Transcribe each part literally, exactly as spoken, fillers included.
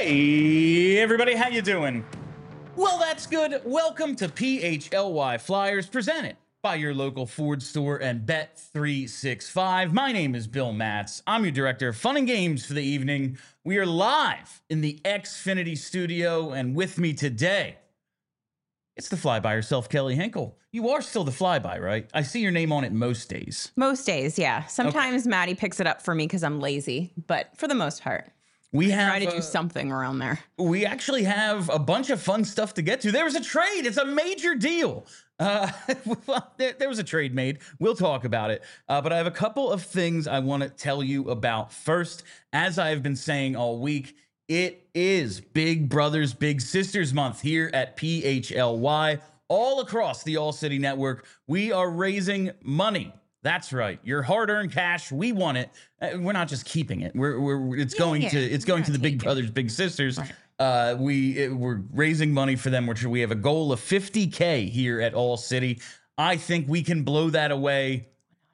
Hey, everybody, how you doing? Well, that's good. Welcome to P H L Y Flyers, presented by your local Ford store and Bet three sixty-five. My name is Bill Matz. I'm your director of fun and games for the evening. We are live in the Xfinity studio, and with me today, it's the fly-by herself, Kelly Hinkle. You are still the fly-by, right? I see your name on it most days. Most days, yeah. Sometimes okay. Maddie picks it up for me because I'm lazy, but for the most part. We have, try to uh, do something around there. We actually have a bunch of fun stuff to get to. There was a trade. It's a major deal. Uh, well, there, there was a trade made. We'll talk about it. Uh, but I have a couple of things I want to tell you about. First, as I have been saying all week, it is Big Brothers Big Sisters month here at P H L Y. All across the All City Network, we are raising money. That's right. Your hard-earned cash, we want it. Uh, we're not just keeping it. We're we're it's yeah, going yeah. to it's going to the Big Brothers Big Sisters. Right. Uh, we it, we're raising money for them, which we have a goal of fifty K here at All City. I think we can blow that away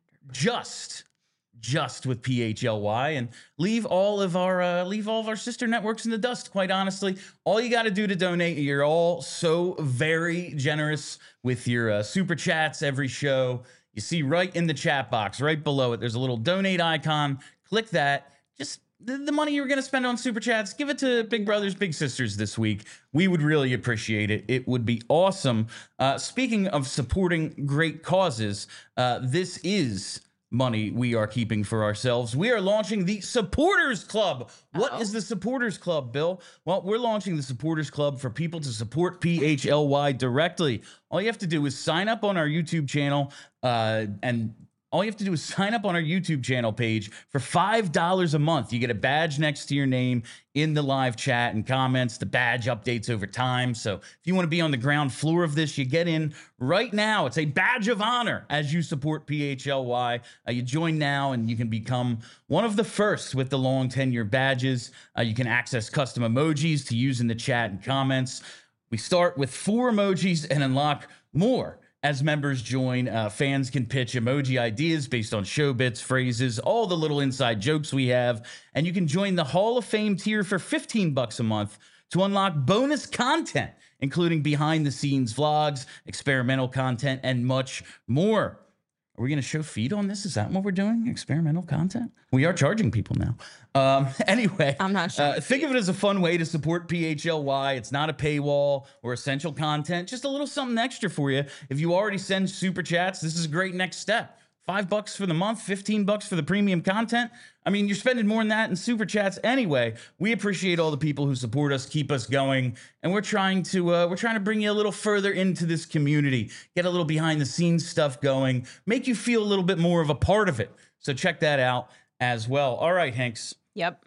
just just with P H L Y and leave all of our uh, leave all of our sister networks in the dust. Quite honestly, all you got to do to donate, you're all so very generous with your uh, super chats every show. You see right in the chat box, right below it, there's a little donate icon. Click that. Just the, the money you were going to spend on Super Chats, give it to Big Brothers Big Sisters this week. We would really appreciate it. It would be awesome. Uh, speaking of supporting great causes, uh, this is money we are keeping for ourselves. We are launching the Supporters Club. What Uh-oh. is the Supporters Club, Bill? Well, we're launching the Supporters Club for people to support P H L Y directly. All you have to do is sign up on our YouTube channel, uh, and all you have to do is sign up on our YouTube channel page for five dollars a month. You get a badge next to your name in the live chat and comments. The badge updates over time. So if you want to be on the ground floor of this, you get in right now. It's a badge of honor as you support P H L Y. Uh, you join now and you can become one of the first with the long tenure badges. Uh, you can access custom emojis to use in the chat and comments. We start with four emojis and unlock more. As members join, uh, fans can pitch emoji ideas based on show bits, phrases, all the little inside jokes we have. And you can join the Hall of Fame tier for fifteen bucks a month to unlock bonus content, including behind the scenes vlogs, experimental content, and much more. Are we going to show feed on this? Is that what we're doing? Experimental content? We are charging people now. Um, anyway, I'm not sure. Uh, think of it as a fun way to support P H L Y. It's not a paywall or essential content, just a little something extra for you. If you already send super chats, this is a great next step. Five bucks for the month, fifteen bucks for the premium content. I mean, you're spending more than that in super chats anyway. We appreciate all the people who support us, keep us going, and we're trying to uh, we're trying to bring you a little further into this community, get a little behind the scenes stuff going, make you feel a little bit more of a part of it. So check that out as well. All right, Hanks. Yep.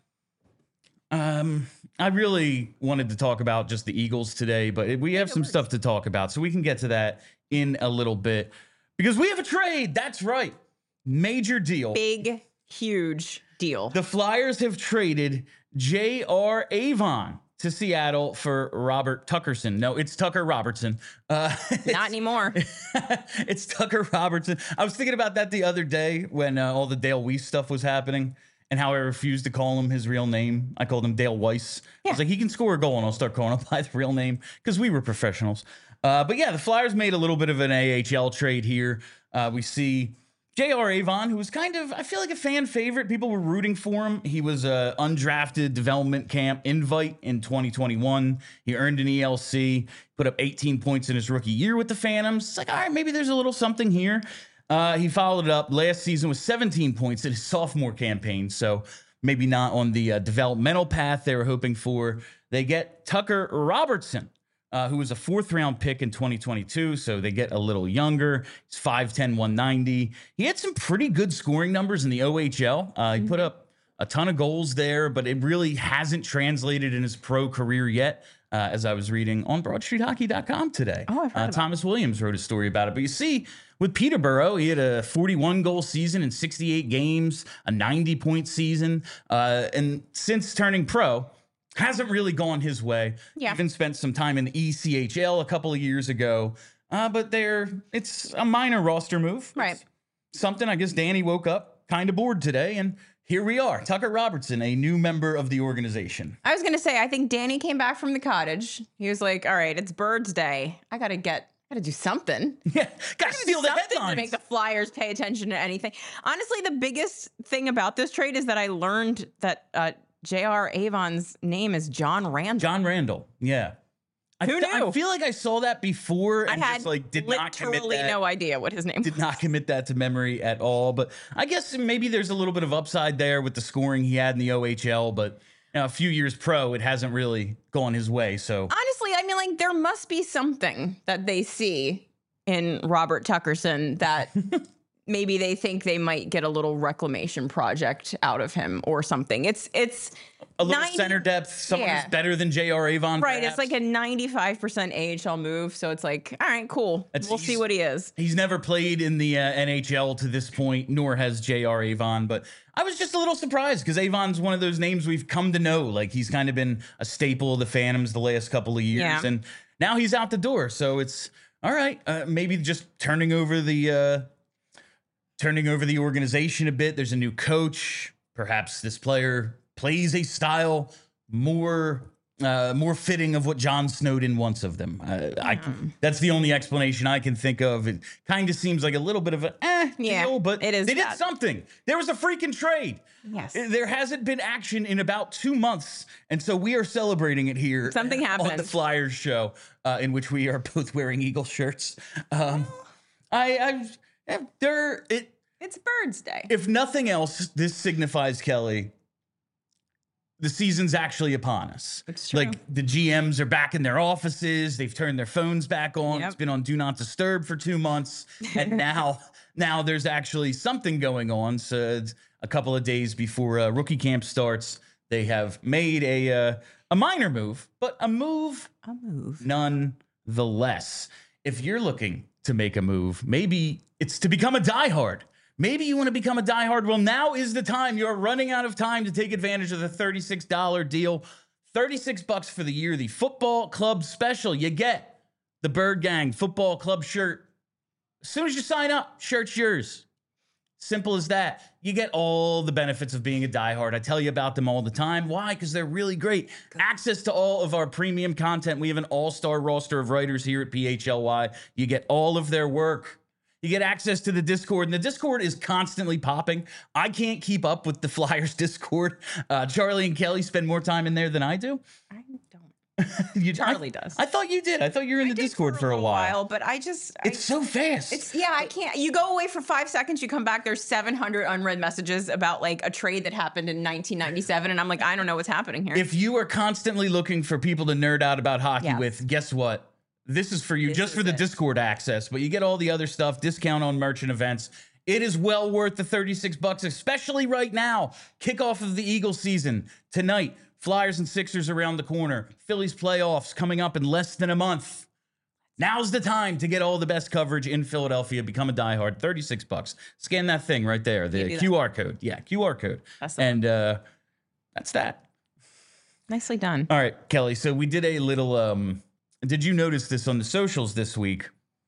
Um, I really wanted to talk about just the Eagles today, but we have some stuff to talk about, so we can get to that in a little bit. Because we have a trade. That's right. Major deal. Big, huge deal. The Flyers have traded J R Avon to Seattle for Robert Tuckerson. No, it's Tucker Robertson. Uh, Not anymore. It's Tucker Robertson. I was thinking about that the other day when uh, all the Dale Weiss stuff was happening and how I refused to call him his real name. I called him Dale Weiss. Yeah. I was like, he can score a goal and I'll start calling him by the real name because we were professionals. Uh, but yeah, the Flyers made a little bit of an A H L trade here. Uh, we see J R Avon, who was kind of, I feel like a fan favorite. People were rooting for him. He was a undrafted development camp invite in twenty twenty-one. He earned an E L C, put up eighteen points in his rookie year with the Phantoms. It's like, all right, maybe there's a little something here. Uh, he followed it up last season with seventeen points in his sophomore campaign. So maybe not on the uh, developmental path they were hoping for. They get Tucker Robertson. Uh, who was a fourth round pick in twenty twenty-two, so they get a little younger. He's five ten, one ninety. He had some pretty good scoring numbers in the O H L. Uh, he put up a ton of goals there, but it really hasn't translated in his pro career yet, uh, as I was reading on broad street hockey dot com today. Oh, I've heard uh, Thomas Williams wrote a story about it. But you see, with Peterborough, he had a forty-one goal season in sixty-eight games, a ninety point season, uh, and since turning pro, hasn't really gone his way. Yeah. Even spent some time in the E C H L a couple of years ago. Uh, but they're, it's a minor roster move. Right. It's something, I guess Danny woke up kind of bored today and here we are. Tucker Robertson, a new member of the organization. I was going to say, I think Danny came back from the cottage. He was like, all right, it's Birds Day. I got to get, got to do something. Yeah, got to steal the headlines. To make the Flyers pay attention to anything. Honestly, the biggest thing about this trade is that I learned that uh, J R. Avon's name is John Randall. John Randall, yeah. I Who th- knew? I feel like I saw that before and I had just like did not commit literally that. no idea what his name Did was. not commit that to memory at all. But I guess maybe there's a little bit of upside there with the scoring he had in the O H L. But you know, a few years pro, it hasn't really gone his way. So Honestly, I mean, like there must be something that they see in Robert Tuckerson that maybe they think they might get a little reclamation project out of him or something. It's it's a little ninety center depth, someone yeah. who's better than J R. Avon. Right, perhaps. it's like a ninety-five percent A H L move, so it's like, all right, cool. It's- we'll see what he is. He's never played in the uh, N H L to this point, nor has J R. Avon. But I was just a little surprised because Avon's one of those names we've come to know. Like he's kind of been a staple of the Phantoms the last couple of years, Yeah. and now he's out the door. So it's all right. Uh, maybe just turning over the uh, turning over the organization a bit. There's a new coach. Perhaps this player plays a style more uh, more fitting of what John Snowden wants of them. Uh, I that's the only explanation I can think of. It kind of seems like a little bit of a eh Yeah, deal, but it is they did bad. something. There was a freaking trade. Yes. There hasn't been action in about two months, and so we are celebrating it here. Something on the happened. Flyers show, uh, in which we are both wearing Eagle shirts. Um, I, I, there it. It's Birds Day. If nothing else, this signifies, Kelly, the season's actually upon us. It's true. Like the G Ms are back in their offices. They've turned their phones back on. Yep. It's been on Do Not Disturb for two months. And now, now there's actually something going on. So it's a couple of days before uh, rookie camp starts, they have made a, uh, a minor move, but a move A move. nonetheless. If you're looking to make a move, maybe it's to become a diehard. Maybe you want to become a diehard. Well, now is the time. You're running out of time to take advantage of the thirty-six dollar deal. thirty-six bucks for the year. The football club special. You get the Bird Gang football club shirt. As soon as you sign up, shirt's yours. Simple as that. You get all the benefits of being a diehard. I tell you about them all the time. Why? Because they're really great. Access to all of our premium content. We have an all-star roster of writers here at P H L Y. You get all of their work. You get access to the Discord, and the Discord is constantly popping. I can't keep up with the Flyers Discord. Uh, Charlie and Kelly spend more time in there than I do. I don't. you, Charlie I, does. I thought you did. I thought you were in I the did Discord for a, little while. But I just. It's I, so fast. It's yeah, I can't. You go away for five seconds, you come back. There's seven hundred unread messages about like a trade that happened in nineteen ninety-seven, and I'm like, I don't know what's happening here. If you are constantly looking for people to nerd out about hockey Yes. with, guess what? This is for you, This just is for the it. Discord access, but you get all the other stuff, discount on merch and events. It is well worth the thirty-six bucks, especially right now. Kickoff of the Eagles season tonight. Flyers and Sixers around the corner. Phillies playoffs coming up in less than a month. Now's the time to get all the best coverage in Philadelphia. Become a diehard. thirty-six bucks. Scan that thing right there. The do that. Q R code. Yeah, Q R code. That's the and uh, that's that. Nicely done. All right, Kelly. So we did a little. Um, did you notice this on the socials this week?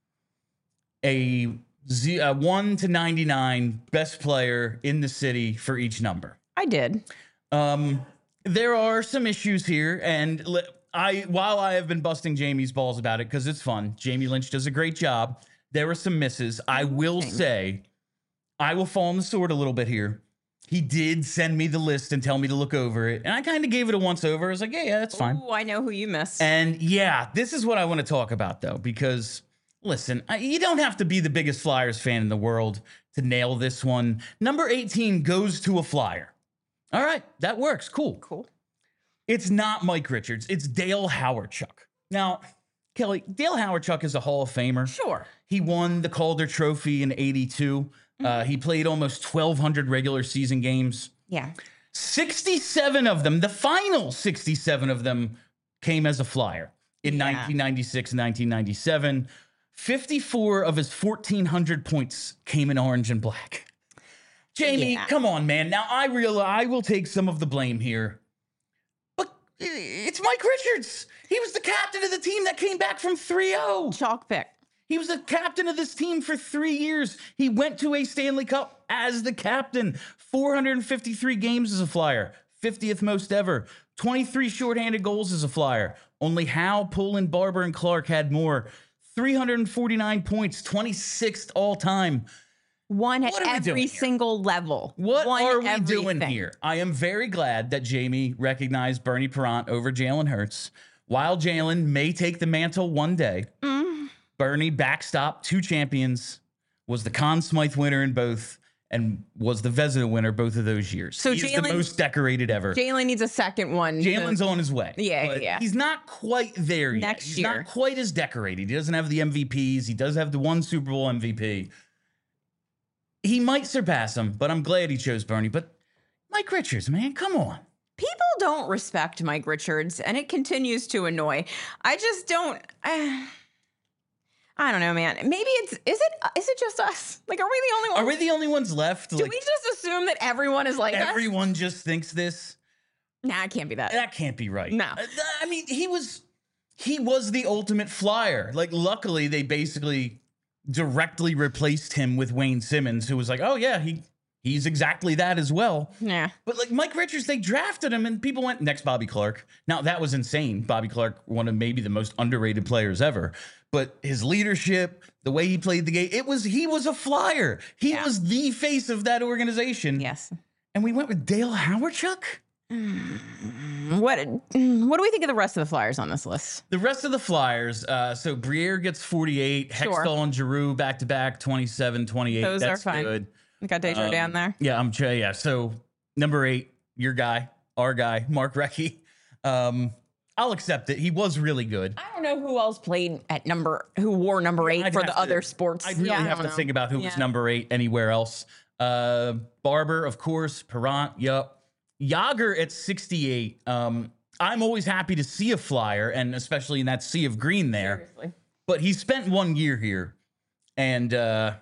A Z, uh, one to ninety-nine best player in the city for each number. I did. Um, there are some issues here, and li- I while I have been busting Jamie's balls about it because it's fun. Jamie Lynch does a great job. There were some misses. I will say, I will fall on the sword a little bit here. He did send me the list and tell me to look over it, and I kind of gave it a once over. I was like, yeah, yeah, that's fine. Oh, I know who you missed. And yeah, this is what I want to talk about, though, because listen, I, you don't have to be the biggest Flyers fan in the world to nail this one. Number eighteen goes to a Flyer. All right, that works. Cool. Cool. It's not Mike Richards. It's Dale Hawerchuk. Now, Kelly, Dale Hawerchuk is a Hall of Famer. Sure. He won the Calder Trophy in eighty-two. Uh, he played almost twelve hundred regular season games. Yeah. sixty-seven of them, the final sixty-seven of them, came as a Flyer in Yeah. nineteen ninety-six and nineteen ninety-seven. fifty-four of his fourteen hundred points came in orange and black. Jamie, Yeah. come on, man. Now, I realize I will take some of the blame here. But it's Mike Richards. He was the captain of the team that came back from three oh. Chalk pick. He was the captain of this team for three years. He went to a Stanley Cup as the captain. four hundred fifty-three games as a Flyer, fiftieth most ever. twenty-three shorthanded goals as a Flyer. Only Howe, Poland, Barber, and Clark had more. three hundred forty-nine points, twenty-sixth all time. One at What are we doing every here? single level. What One are we everything. doing here? I am very glad that Jamie recognized Bernie Perrant over Jalen Hurts. While Jalen may take the mantle one day, Mm. Bernie backstopped two champions, was the Conn Smythe winner in both, and was the Vezina winner both of those years. So He's the Jalen- most decorated ever. Jalen needs a second one. to- Jalen's on his way. Yeah, but yeah. He's not quite there yet. Next He's year. not quite as decorated. He doesn't have the M V Ps. He does have the one Super Bowl M V P. He might surpass him, but I'm glad he chose Bernie. But Mike Richards, man, come on. People don't respect Mike Richards, and it continues to annoy. I just don't. I, I don't know, man. Maybe it's is it is it just us? Like, are we the only Are ones? we the only ones left? Do Like, we just assume that everyone is like us? everyone just thinks this? Nah, it can't be that. That can't be right. No. Uh, I mean, he was he was the ultimate Flyer. Like, luckily, they basically directly replaced him with Wayne Simmons, who was like, oh yeah, he he's exactly that as well. Yeah. But like Mike Richards, they drafted him and people went, next Bobby Clark. Now that was insane. Bobby Clark, one of maybe the most underrated players ever. But his leadership, the way he played the game, it was he was a Flyer. He Yeah. was the face of that organization. Yes. And we went with Dale Howardchuk. What what do we think of the rest of the Flyers on this list? The rest of the Flyers, uh, so Briere gets forty-eight, Sure. Hextall and Giroux back to back, twenty-seven, twenty-eight. Those are That's fine. good. We got Desjardins Um, there. Yeah, I'm Jay. Yeah. So number eight, your guy, our guy, Mark Recchi. Um, I'll accept it. He was really good. I don't know who else played at number who wore number eight I'd for have the to- other sports. I'd really Yeah, I have don't to know. think about who was Yeah. number eight anywhere else. Uh, Barber, of course, Perrant, yup. Yager at sixty-eight. Um, I'm always happy to see a Flyer, and especially in that sea of green there. Seriously. But he spent one year here, and uh,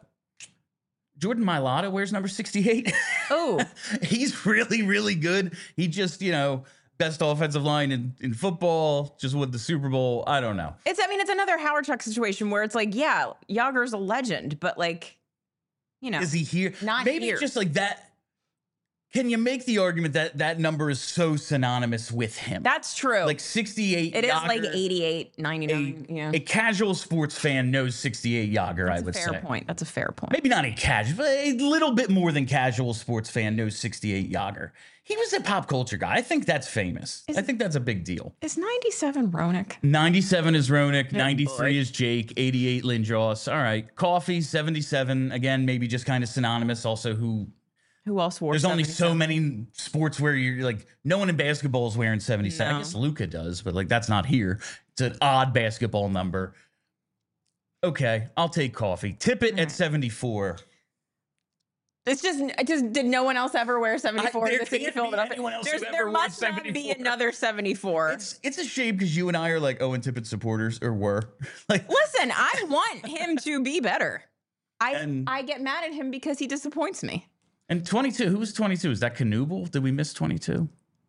Jordan Mailata wears number sixty-eight. Oh, He's really, really good. He just, you know, best offensive line in, in football, just won the Super Bowl. I don't know. it's I mean it's another Howard Chuck situation where it's like, yeah, Yager's a legend, but like, you know, Is he here? Not Maybe here. it's just like that. Can you make the argument that that number is so synonymous with him? that's true. Like sixty-eight. it is like Yager, eighty-eight, ninety-nine. A, yeah. a casual sports fan knows sixty-eight Yager, That's I a would fair say. point. That's a fair point. Maybe not a casual, but a little bit more than casual sports fan knows sixty-eight Yager. He was a pop culture guy. I think that's famous. Is- I think that's a big deal. Is ninety-seven Ronick? ninety-seven is Ronick, Oh, ninety-three boy. is Jake, eighty-eight Lindros. All right. Coffee, seventy-seven. Again, maybe just kind of synonymous. Also, who Who else wore? there's only so seventy-seven? many sports where you're like, no one in basketball is wearing seventy-seven. I No. guess Luca does, but like that's not here. It's an odd basketball number. Okay, I'll take Coffee. Tippett at seventy-four. It's just, it just did no one else ever wear seventy-four I- in there the city of can't be Philadelphia? anyone else who There's, ever there wore must not be seventy-four. another seventy-four. It's it's a shame because you and I are like Owen Tippett supporters, or were. Like, Listen, I want him to be better. I And- I get mad at him because he disappoints me. and twenty-two. Who was twenty-two? Is that Knuble? Did we miss twenty-two?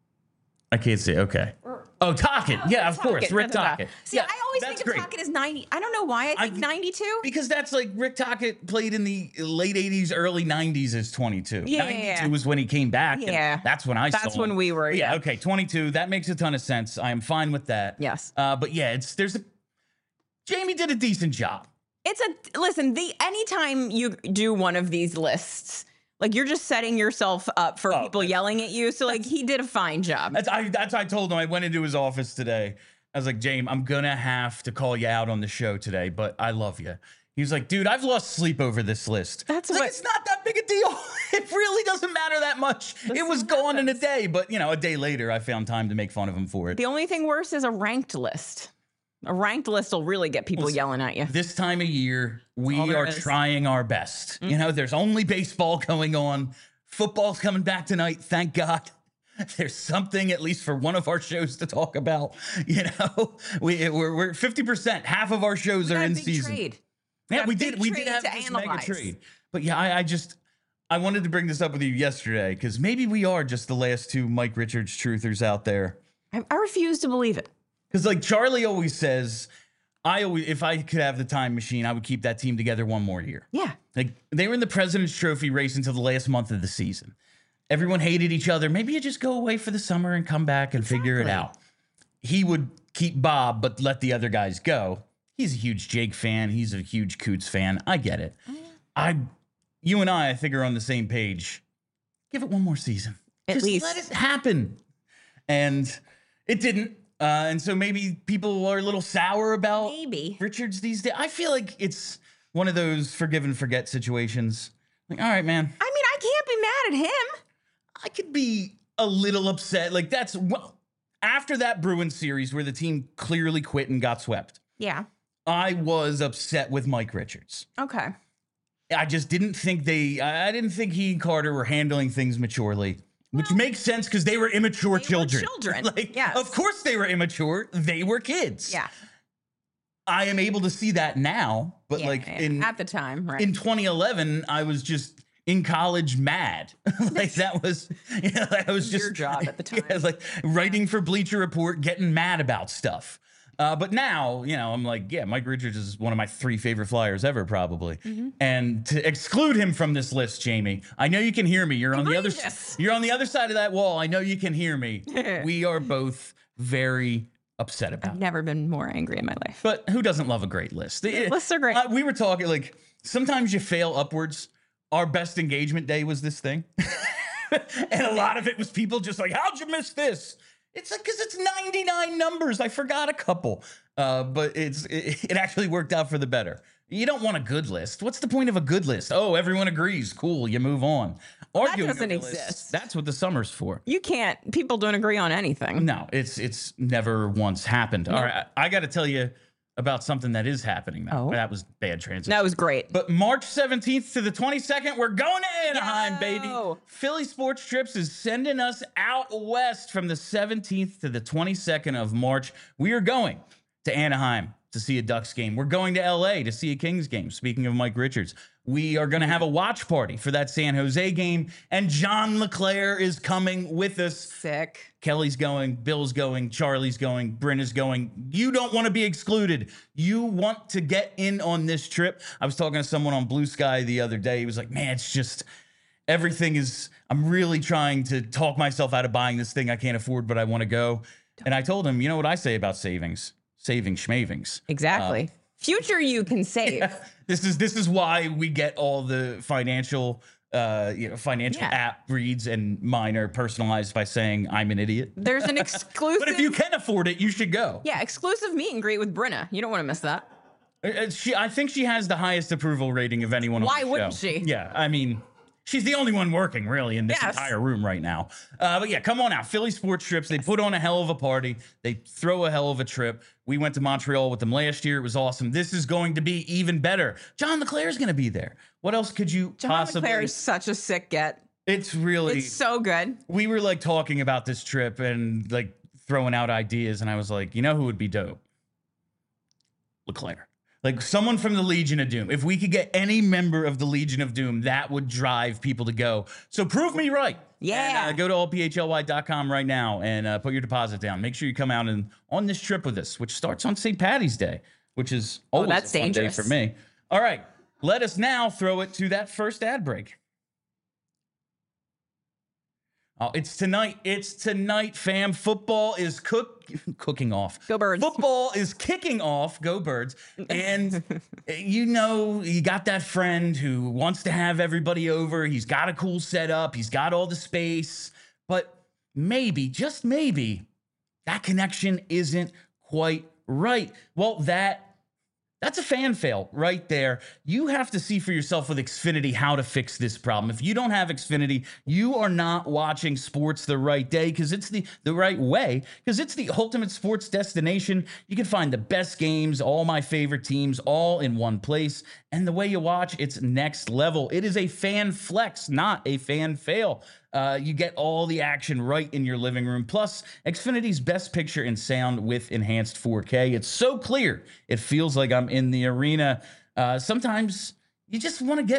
I can't see. Okay. Oh, Tockett. Yeah, of course. Rick Da, da, da. Tockett. See, Yeah, I always that's think of great. Tockett as ninety. I don't know why I think I- ninety-two. Because that's like Rick Tockett played in the late eighties, early nineties as twenty-two. Yeah, ninety-two yeah. was when he came back. and Yeah. That's when I saw That's him. when we were. Yeah, Yeah. okay, twenty-two. That makes a ton of sense. I am fine with that. Yes. Uh, but yeah, it's there's a Jamie did a decent job. It's a listen. The anytime you do one of these lists, like you're just setting yourself up for Oh, people that's- yelling at you. So like he did a fine job. That's I that's I told him. I went into his office today. I was like, James, I'm gonna have to call you out on the show today, but I love you. He was like, dude, I've lost sleep over this list. That's It's like, what- it's not that big a deal. It really doesn't matter that much. This it was is gone in a happens. day, but you know, a day later, I found time to make fun of him for it. The only thing worse is a ranked list. A ranked list will really get people Well, yelling at you. This time of year, we all there are is. trying our best. You know, there's only baseball going on. Football's coming back tonight, thank God. There's something, at least for one of our shows, to talk about. You know, we we're, we're fifty percent. Half of our shows We are got a in big season. trade. Yeah, got a we big did. We trade did have to this mega analyze. trade. But yeah, I, I just I wanted to bring this up with you yesterday because maybe we are just the last two Mike Richards truthers out there. I, I refuse to believe it. Because like Charlie always says, I always if I could have the time machine, I would keep that team together one more year. Yeah. Like they were in the President's Trophy race until the last month of the season. Everyone hated each other. Maybe you just go away for the summer and come back and figure it Exactly. out. He would keep Bob, but let the other guys go. He's a huge Jake fan. He's a huge Coots fan. I get it. I, you and I, I think are on the same page. Give it one more season. At Just least. let it happen. And it didn't. Uh, and so maybe people are a little sour about Maybe. Richards these days. I feel like it's one of those forgive and forget situations. Like, all right, man, I mean, I can't be mad at him. I could be a little upset. Like that's well, after that Bruins series where the team clearly quit and got swept. Yeah. I was upset with Mike Richards. Okay. I just didn't think they, I I didn't think he and Carter were handling things maturely, which makes sense because they were immature They were children. children, Like, yes. of course they were immature. They were kids. Yeah. I am able to see that now, but Yeah, like yeah. in at the time, right? in twenty eleven, I was just in college mad. Like that was, you know, I was just Your job at the time. Yeah, like writing for Bleacher Report, getting mad about stuff. Uh, but now, you know, I'm like, yeah, Mike Richards is one of my three favorite Flyers ever, probably. Mm-hmm. And to exclude him from this list, Jamie, I know you can hear me. You're on the other, Egregious. you're on the other side of that wall. I know you can hear me. We are both very upset about I've it. never been more angry in my life. But who doesn't love a great list? It- Lists are great. uh, we were talking like sometimes you fail upwards. Our best engagement day was this thing. And a lot of it was people just like, how'd you miss this? It's like, because it's ninety-nine numbers. I forgot a couple. Uh, but it's it, it actually worked out for the better. You don't want a good list. What's the point of a good list? Oh, everyone agrees. Cool. You move on. Arguing doesn't over lists, exist. That's what the summer's for. You can't. People don't agree on anything. No, it's it's never once happened. All right, I, I got to tell you about something that is happening now. Oh. That was bad transition. That was great. But March seventeenth to the twenty-second, we're going to Anaheim, baby. Yo. Philly Sports Trips is sending us out west from the seventeenth to the twenty-second of March. We are going to Anaheim to see a Ducks game. We're going to L A to see a Kings game. Speaking of Mike Richards, we are going to have a watch party for that San Jose game, and John LeClaire is coming with us. Sick. Kelly's going, Bill's going, Charlie's going, Bryn is going. You don't want to be excluded. You want to get in on this trip. I was talking to someone on Blue Sky the other day. He was like, man, it's just everything is, I'm really trying to talk myself out of buying this thing I can't afford, but I want to go. And I told him, you know what I say about savings? Saving schmavings. Exactly. Future you can save. This is this is why we get all the financial uh you know financial Yeah. app reads, and mine are personalized by saying I'm an idiot. There's an exclusive. But if you can afford it, you should go. yeah, exclusive meet and greet with Brenna. You don't want to miss that. Uh, uh, She, I think she has the highest approval rating of anyone. Why on the wouldn't show. she? Yeah, I mean, she's the only one working really in this Yes. entire room right now. Uh, but yeah, come on out, Philly Sports Trips. They put on a hell of a party. They throw a hell of a trip. We went to Montreal with them last year. It was awesome. This is going to be even better. John LeClaire's going to be there. What else could you John possibly? LeClaire is such a sick get. It's really. It's so good. we were like talking about this trip and like throwing out ideas, and I was like, you know who would be dope? LeClaire. Like someone from the Legion of Doom. If we could get any member of the Legion of Doom, that would drive people to go. So prove me right. Yeah. And, uh, go to all p h l y dot com right now and uh, put your deposit down. Make sure you come out and on this trip with us, which starts on Saint Patty's Day, which is always Oh, that's a fun dangerous. day for me. All right. Let us now throw it to that first ad break. Oh, it's tonight. It's tonight, fam. Football is cook cooking off. Go Birds. Football is kicking off. Go Birds. And you know, you got that friend who wants to have everybody over. He's got a cool setup. He's got all the space. But maybe, just maybe, that connection isn't quite right. Well, that That's a fan fail right there. You have to see for yourself with Xfinity how to fix this problem. If you don't have Xfinity, you are not watching sports the right day because it's the, the right way, because it's the ultimate sports destination. You can find the best games, all my favorite teams, all in one place. And the way you watch, it's next level. It is a fan flex, not a fan fail. Uh, you get all the action right in your living room. Plus, Xfinity's best picture and sound with enhanced four K. It's so clear, it feels like I'm in the arena. Uh, sometimes you just want to get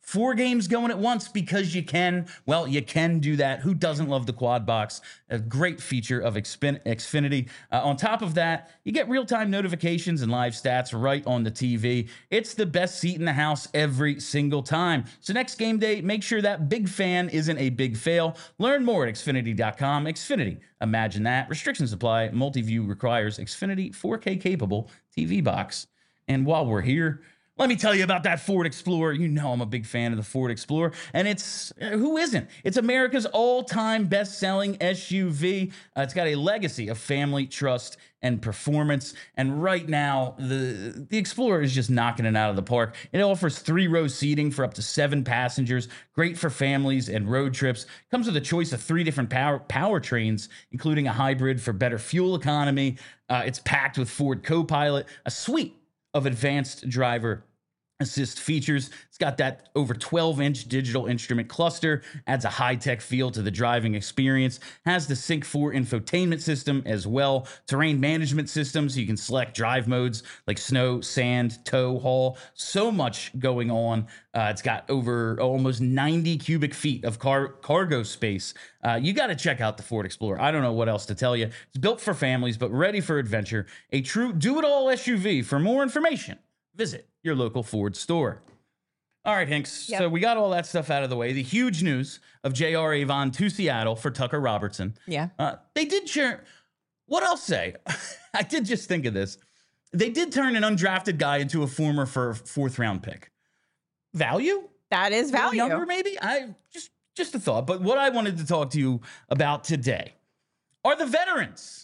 Four games going at once because you can. Well, you can do that. Who doesn't love the quad box? A great feature of Xfin- Xfinity. Uh, on top of that, you get real-time notifications and live stats right on the T V. It's the best seat in the house every single time. So next game day, make sure that big fan isn't a big fail. Learn more at Xfinity dot com. Xfinity, imagine that. Restrictions apply. Multi-view requires Xfinity four K capable T V box. And while we're here, let me tell you about that Ford Explorer. You know I'm a big fan of the Ford Explorer, and it's, who isn't? It's America's all-time best-selling S U V. Uh, it's got a legacy of family, trust, and performance, and right now, the, the Explorer is just knocking it out of the park. It offers three-row seating for up to seven passengers, great for families and road trips. Comes with a choice of three different power powertrains, including a hybrid for better fuel economy. Uh, it's packed with Ford Copilot, a suite of advanced driver assist features. It's got that over twelve inch digital instrument cluster, adds a high-tech feel to the driving experience, has the Sync four infotainment system as well, terrain management system so you can select drive modes like snow, sand, tow, haul, so much going on. Uh, it's got over almost ninety cubic feet of car cargo space. Uh, you got to check out the Ford Explorer. I don't know what else to tell you. It's built for families, but ready for adventure. A true do-it-all S U V. For more information, visit your local Ford store. All right, Hinks. Yep. So we got all that stuff out of the way. The huge news of J R. Avon to Seattle for Tucker Robertson. Yeah. Uh, they did share. What I'll say, I did just think of this. They did turn an undrafted guy into a former for fourth round pick. Value? That is A little value. Younger, maybe? I just just a thought. But what I wanted to talk to you about today are the veterans.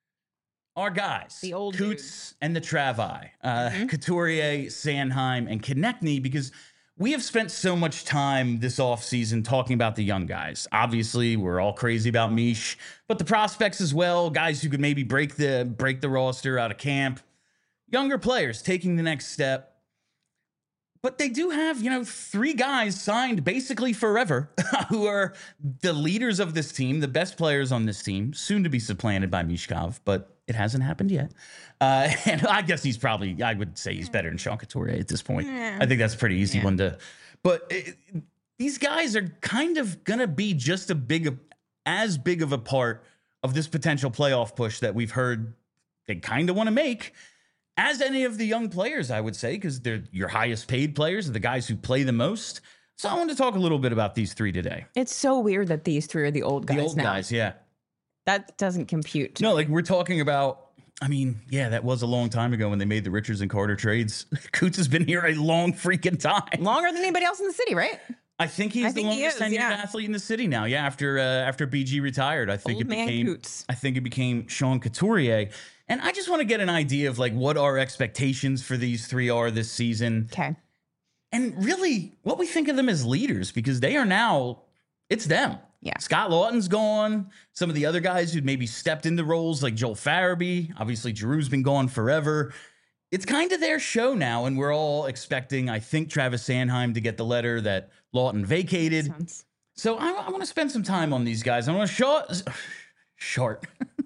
Our guys, The old Coots and the Travi, uh, Mhm. Couturier, Sanheim, and Konechny, because we have spent so much time this offseason talking about the young guys. Obviously, we're all crazy about Mish, but the prospects as well, guys who could maybe break the break the roster out of camp, younger players taking the next step. But they do have, you know, three guys signed basically forever who are the leaders of this team, the best players on this team, soon to be supplanted by Mishkov, but it hasn't happened yet. Uh, and I guess he's probably, I would say he's better than Sean Couturier at this point. Yeah. I think that's a pretty easy Yeah. one to, but it, these guys are kind of going to be just a big, as big of a part of this potential playoff push that we've heard they kind of want to make as any of the young players, I would say, because they're your highest paid players, the guys who play the most. So I want to talk a little bit about these three today. It's so weird that these three are the old guys The old now. guys, yeah. That doesn't compute. No, like we're talking about, I mean, yeah, that was a long time ago when they made the Richards and Carter trades. Coots has been here a long freaking time. Longer than anybody else in the city, right? I think he's I the think he longest is, tenured yeah. athlete in the city now. Yeah, after uh, after B G retired, I think Old it man became Coots. I think it became Sean Couturier. And I just want to get an idea of like what our expectations for these three are this season. Okay. And really what we think of them as leaders, because they are now, it's them. Yeah. Scott Lawton's gone. Some of the other guys who'd maybe stepped into roles like Joel Farabee. Obviously, Giroux's been gone forever. It's kind of their show now, and we're all expecting, I think, Travis Sanheim to get the letter that Lawton vacated. Sounds- So I, I want to spend some time on these guys. I want to short, short.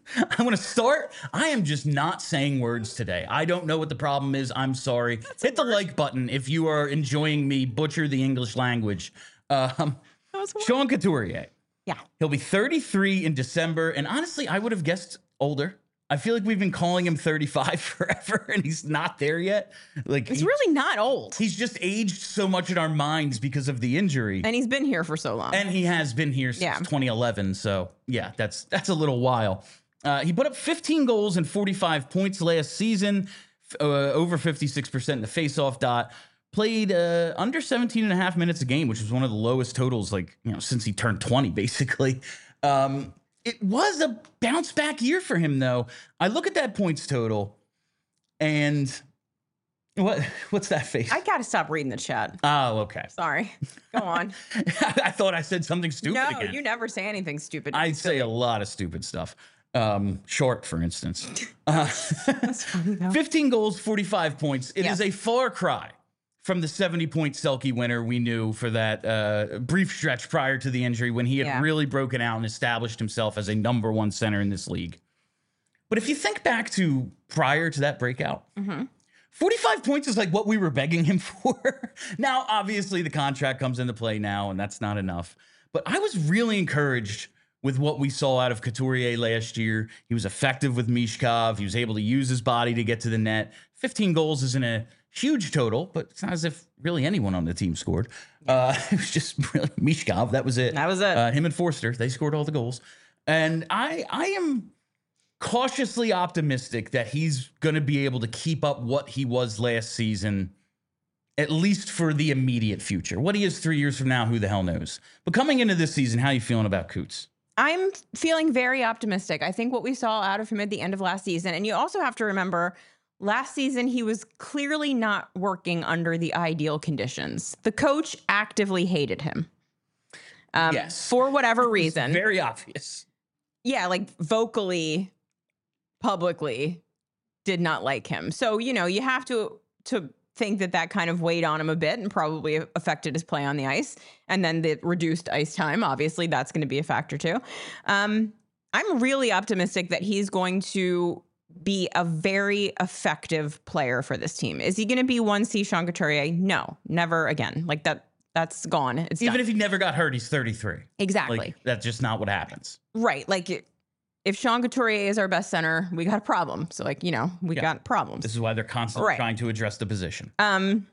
I want to start. I am just not saying words today. I don't know what the problem is. I'm sorry. Hit the like button if you are enjoying me butcher the English language. Um, That was one. Sean Couturier. Yeah. He'll be thirty-three in December. And honestly, I would have guessed older. I feel like we've been calling him thirty-five forever, and he's not there yet. Like He's he- really not old. he's just aged so much in our minds because of the injury. And he's been here for so long. And he has been here since Yeah. twenty eleven. So yeah, that's that's a little while. Uh, he put up fifteen goals and forty-five points last season, f- uh, over fifty-six percent in the faceoff dot. Played uh, under seventeen and a half minutes a game, which was one of the lowest totals, like, you know, since he turned twenty, basically. Um, it was a bounce back year for him, though. I look at that points total, and what what's that face? I got to stop reading the chat. Oh, okay. Sorry. Go on. I thought I said something stupid no, again. you never say anything stupid. I say a lot of stupid stuff. Um, short, for instance. Uh, That's funny, though. fifteen goals, forty-five points. It Yeah. is a far cry from the seventy-point Selke winner we knew for that uh, brief stretch prior to the injury when he had Yeah. really broken out and established himself as a number one center in this league. But if you think back to prior to that breakout, Mhm. forty-five points is like what we were begging him for. Now, obviously, the contract comes into play now, and that's not enough. But I was really encouraged with what we saw out of Couturier last year. He was effective with Mishkov. He was able to use his body to get to the net. fifteen goals isn't a huge total, but it's not as if really anyone on the team scored. Uh, it was just really Mishkov. That was it. That was it. Uh, him and Forster, they scored all the goals. And I, I am cautiously optimistic that he's going to be able to keep up what he was last season, at least for the immediate future. What he is three years from now, who the hell knows? But coming into this season, how are you feeling about Coots? I'm feeling very optimistic. I think what we saw out of him at the end of last season, and you also have to remember, last season he was clearly not working under the ideal conditions. The coach actively hated him. Um, Yes. For whatever reason. Very obvious. Yeah, like vocally, publicly, did not like him. So, you know, you have to to think that that kind of weighed on him a bit and probably affected his play on the ice. And then the reduced ice time, obviously, that's going to be a factor too. Um, I'm really optimistic that he's going to be a very effective player for this team. Is he going to be one C Sean Couturier? No, never again. Like that, that's gone. It's Even done. if he never got hurt, he's thirty-three. Exactly. Like, that's just not what happens. Right. Like if Sean Couturier is our best center, we got a problem. So like, you know, we Yeah. got problems. This is why they're constantly Right. trying to address the position. Um,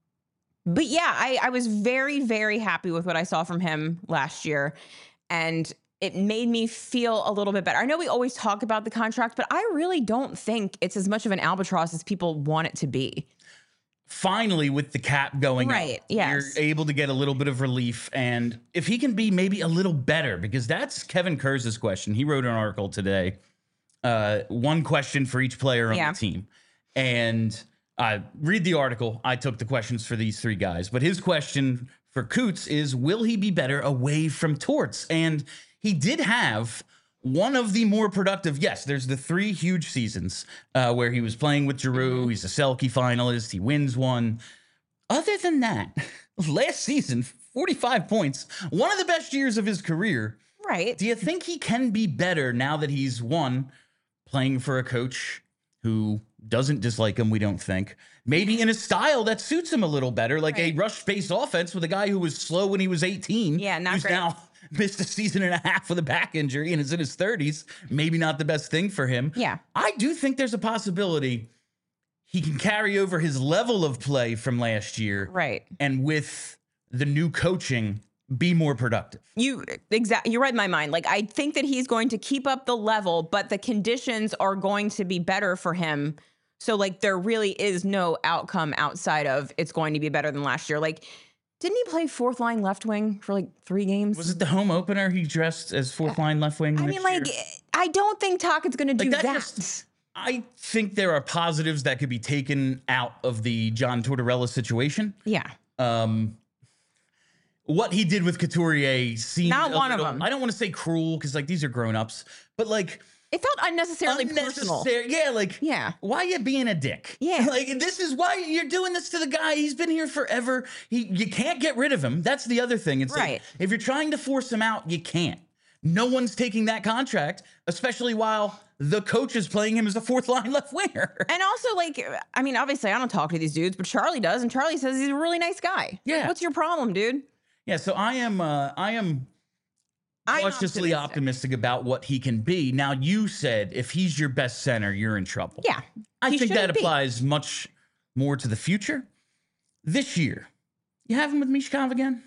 but yeah, I, I was very, very happy with what I saw from him last year. And it made me feel a little bit better. I know we always talk about the contract, but I really don't think it's as much of an albatross as people want it to be. Finally, with the cap going Right, up, yes. you're able to get a little bit of relief. And if he can be maybe a little better, because that's Kevin Kurz's question. He wrote an article today, uh, one question for each player on Yeah. the team. And uh, read the article. I took the questions for these three guys. But his question for Coots is, will he be better away from Torts? And he did have one of the more productive, yes, there's the three huge seasons uh, where he was playing with Giroux. He's a Selke finalist. He wins one. Other than that, last season, forty-five points, one of the best years of his career. Right. Do you think he can be better now that he's, one, playing for a coach who doesn't dislike him, we don't think, maybe in a style that suits him a little better, like Right. a rush-based offense with a guy who was slow when he was eighteen. Yeah, not who's great. now missed a season and a half with a back injury and is in his thirties. Maybe not the best thing for him. Yeah. I do think there's a possibility he can carry over his level of play from last year. Right. And with the new coaching, be more productive. You exactly. You read my mind. Like I think that he's going to keep up the level, but the conditions are going to be better for him. So like there really is no outcome outside of it's going to be better than last year. Like, didn't he play fourth line left wing for like three games? Was it the home opener he dressed as fourth line left wing? I next mean, like, year? I don't think Tocchet's going to do Like, that that. just- I think there are positives that could be taken out of the John Tortorella situation. Yeah. Um, what he did with Couturier seemed Not a one of little- them. I don't want to say cruel because like these are grown ups, but like It felt unnecessarily personal. unnecessary. Yeah, like Yeah. why you being a dick? Yeah. like this is why you're doing this to the guy. He's been here forever. He you can't get rid of him. That's the other thing. It's Right. like, if you're trying to force him out, you can't. No one's taking that contract, especially while the coach is playing him as a fourth line left winger. And also, like, I mean, obviously, I don't talk to these dudes, but Charlie does, and Charlie says he's a really nice guy. Yeah. What's your problem, dude? Yeah, so I am uh, I am I'm cautiously optimistic. optimistic. about what he can be. Now, you said if he's your best center, you're in trouble. Yeah. I he think that shouldn't be. applies much more to the future. This year, you have him with Mishkov again?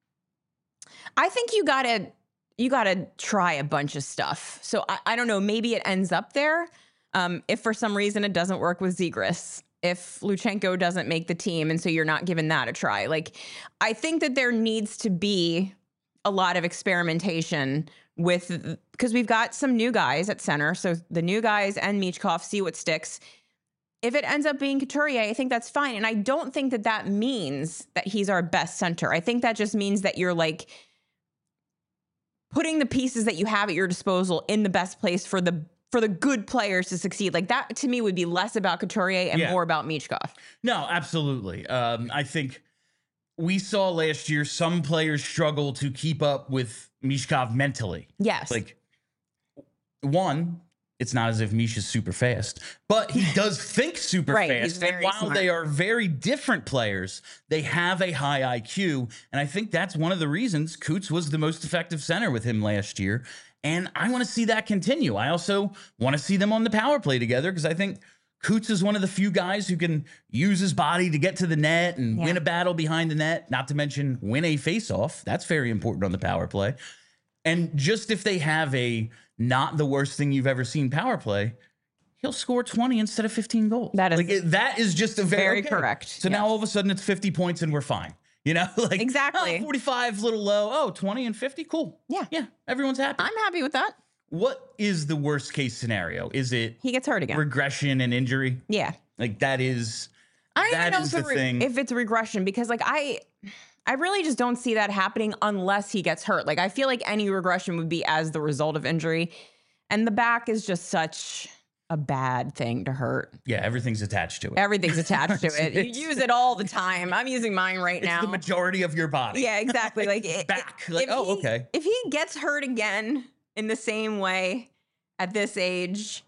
I think you gotta you gotta try a bunch of stuff. So I, I don't know. Maybe it ends up there. Um, if for some reason it doesn't work with Zegras, if Luchenko doesn't make the team, and so you're not giving that a try. Like, I think that there needs to be a lot of experimentation with, because we've got some new guys at center. So the new guys and Michkov, see what sticks. If it ends up being Couturier, I think that's fine. And I don't think that that means that he's our best center. I think that just means that you're like putting the pieces that you have at your disposal in the best place for the for the good players to succeed. Like that to me would be less about Couturier and Yeah. more about Michkov. No, absolutely. Um, I think we saw last year some players struggle to keep up with Mishkov mentally. Yes. Like, one, it's not as if Misha's super fast, but he does think super Right, fast. he's very and while smart. they are very different players, they have a high I Q. And I think that's one of the reasons Coots was the most effective center with him last year. And I want to see that continue. I also want to see them on the power play together because I think Coots is one of the few guys who can use his body to get to the net and Yeah. win a battle behind the net, not to mention win a faceoff. That's very important on the power play. And just if they have a not the worst thing you've ever seen power play, he'll score twenty instead of fifteen goals. That is like it, that is just a very, very okay. correct. So now Yes. all of a sudden it's fifty points and we're fine. You know, like Exactly. oh, forty-five little low. Oh, twenty and fifty. Cool. Yeah. Yeah. Everyone's happy. I'm happy with that. What is the worst case scenario? Is it He gets hurt again. regression and injury? Yeah. Like that is I don't that even know is if, the it re- thing. if it's regression because like I I really just don't see that happening unless he gets hurt. Like I feel like any regression would be as the result of injury. And the back is just such a bad thing to hurt. yeah, everything's attached to it. Everything's attached to it. It's- You use it all the time. I'm using mine right It's now. the majority of your body. Yeah, exactly. Like it, back. it- Like, if oh, he- okay. If he gets hurt again in the same way at this age,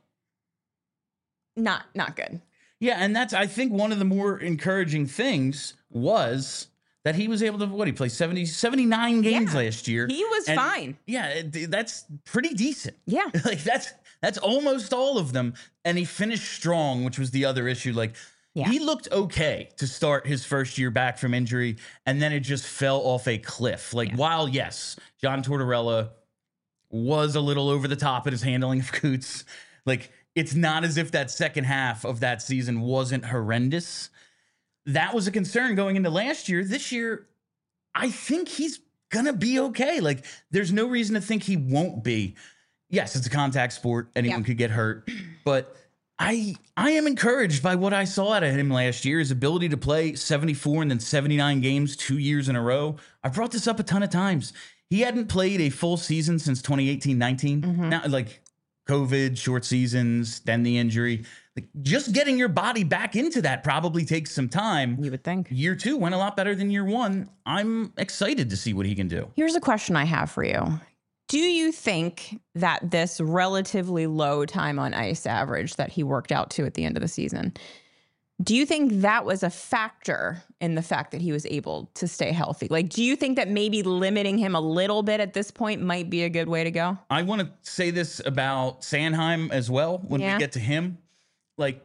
not not good. Yeah, and that's I think one of the more encouraging things was that he was able to what he played seventy, seventy-nine games Yeah. last year. He was And, fine. Yeah, it- that's pretty decent. Yeah. Like that's that's almost all of them, and he finished strong, which was the other issue. Like Yeah. he looked okay to start his first year back from injury, and then it just fell off a cliff. Like Yeah. while yes, John Tortorella was a little over the top at his handling of Coots, like it's not as if that second half of that season wasn't horrendous. That was a concern going into last year. This year, I think he's gonna be okay. Like, there's no reason to think he won't be. Yes, it's a contact sport. Anyone Yeah. could get hurt, but I I am encouraged by what I saw out of him last year. His ability to play seventy-four and then seventy-nine games two years in a row. I brought this up a ton of times. He hadn't played a full season since twenty eighteen nineteen. Mhm. Now, like COVID, short seasons, then the injury. Like, just getting your body back into that probably takes some time. You would think. Year two went a lot better than year one. I'm excited to see what he can do. Here's a question I have for you. Do you think that this relatively low time on ice average that he worked out to at the end of the season, do you think that was a factor in the fact that he was able to stay healthy? Like, do you think that maybe limiting him a little bit at this point might be a good way to go? I want to say this about Sanheim as well when Yeah. we get to him. Like,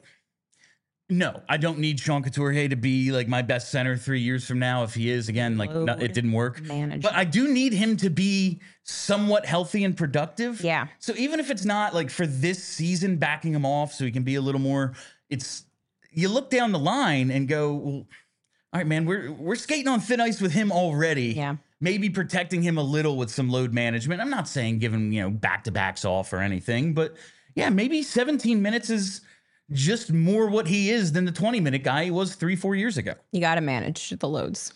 no, I don't need Sean Couturier to be like my best center three years from now. If he is, again, like no, it didn't work. Manage. But I do need him to be somewhat healthy and productive. Yeah. So even if it's not like for this season, backing him off so he can be a little more, it's you look down the line and go, well, all right, man, we're we're skating on thin ice with him already. Yeah. Maybe protecting him a little with some load management. I'm not saying give him, you know, back to backs off or anything, but yeah, maybe seventeen minutes is just more what he is than the twenty minute guy he was three, four years ago. You got to manage the loads.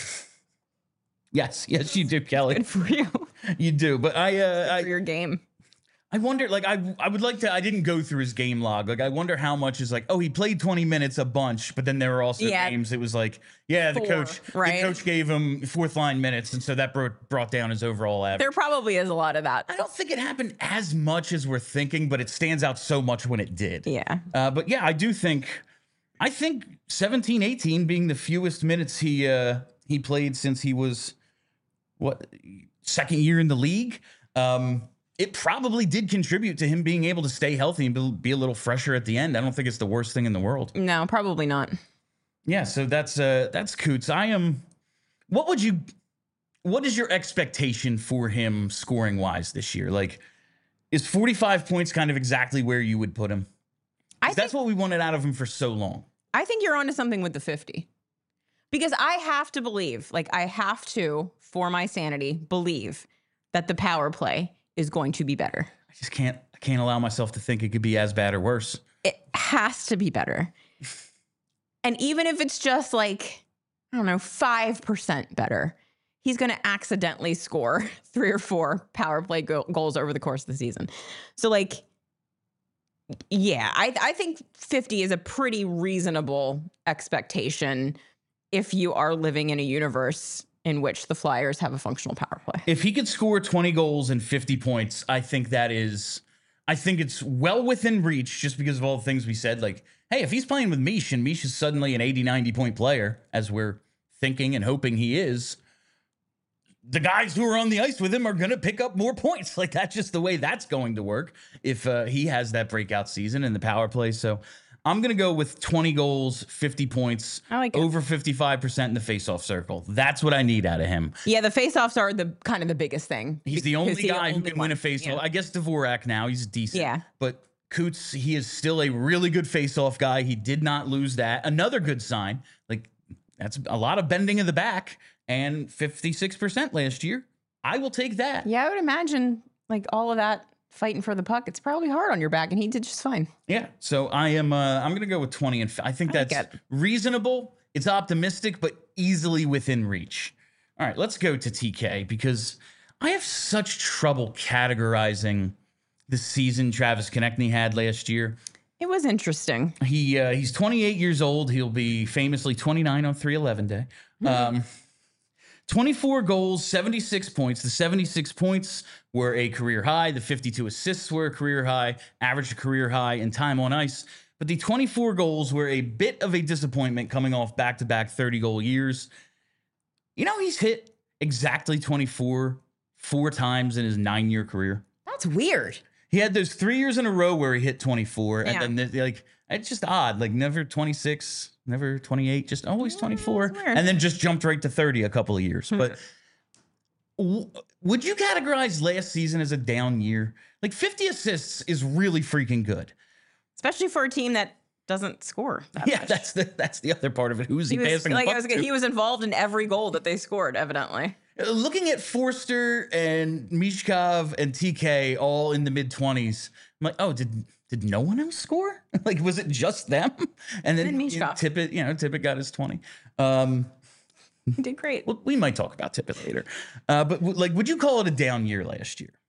Yes, yes, you do, Kelly. Good for you. You do. But I, uh, for I, your game. I wonder, like, I, I would like to, I didn't go through his game log. Like, I wonder how much is like, oh, he played twenty minutes a bunch, but then there were also Yeah. games it was like, yeah, the Four, coach, right? the coach gave him fourth line minutes. And so that brought, brought down his overall average. There probably is a lot of that. I don't think it happened as much as we're thinking, but it stands out so much when it did. Yeah. Uh, but yeah, I do think, I think seventeen, eighteen being the fewest minutes he uh, he played since he was, what, second year in the league, um, it probably did contribute to him being able to stay healthy and be, be a little fresher at the end. I don't think it's the worst thing in the world. No, probably not. Yeah, so that's uh, that's Coots. I am, what would you, what is your expectation for him scoring wise this year? Like, is forty-five points kind of exactly where you would put him? I 'Cause that's what we wanted out of him for so long. I think you're onto something with the fifty. Because I have to believe, like I have to, for my sanity, believe that the power play is going to be better. I just can't, I can't allow myself to think it could be as bad or worse. It has to be better. And even if it's just like, I don't know, five percent better, he's going to accidentally score three or four power play go- goals over the course of the season. So like, yeah, I, I think fifty is a pretty reasonable expectation if you are living in a universe in which the Flyers have a functional power play. If he could score twenty goals and fifty points, I think that is I think it's well within reach just because of all the things we said. Like, hey, if he's playing with Mish and Mish is suddenly an eighty, ninety point player, as we're thinking and hoping he is, the guys who are on the ice with him are going to pick up more points. Like, that's just the way that's going to work if uh, he has that breakout season in the power play. So I'm going to go with twenty goals, fifty points, I like it. over fifty-five percent in the faceoff circle. That's what I need out of him. Yeah, the faceoffs are the kind of the biggest thing. He's the only because he's the guy who only can one. win a faceoff. Yeah. I guess Dvorak now, he's decent. Yeah. But Coots, he is still a really good faceoff guy. He did not lose that. Another good sign. Like, that's a lot of bending of the back and fifty-six percent last year. I will take that. Yeah, I would imagine like all of that fighting for the puck. It's probably hard on your back, and he did just fine. Yeah. So I am. Uh, I'm going to go with twenty, and f- I think I like that's it. reasonable. It's optimistic, but easily within reach. All right, let's go to T K because I have such trouble categorizing the season Travis Konechny had last year. It was interesting. He uh, he's twenty-eight years old. He'll be famously twenty-nine on three eleven day. Um, twenty-four goals, seventy-six points. The seventy-six points were a career high. The fifty-two assists were a career high, averaged a career high in time on ice. But the twenty-four goals were a bit of a disappointment coming off back-to-back thirty-goal years. You know, he's hit exactly twenty-four four times in his nine-year career. That's weird. He had those three years in a row where he hit twenty-four, Yeah. and then like it's just odd, like never twenty-six, never twenty-eight, just always twenty-four, that's weird. and then just jumped right to thirty a couple of years. But w- would you categorize last season as a down year? Like fifty assists is really freaking good. Especially for a team that doesn't score. That Yeah, much. that's the that's the other part of it. Who's he, He was, passing like the I puck was, to? he was involved in every goal that they scored, evidently. Uh, Looking at Forster and Mishkov and T K all in the mid twenties, I'm like, oh, did did no one else score? Like, was it just them? And then And you know, Mishkov. Tippett, you know, Tippett got his twenty. Um, He did great. well, we might talk about Tippett later. Uh, but w- like, would you call it a down year last year?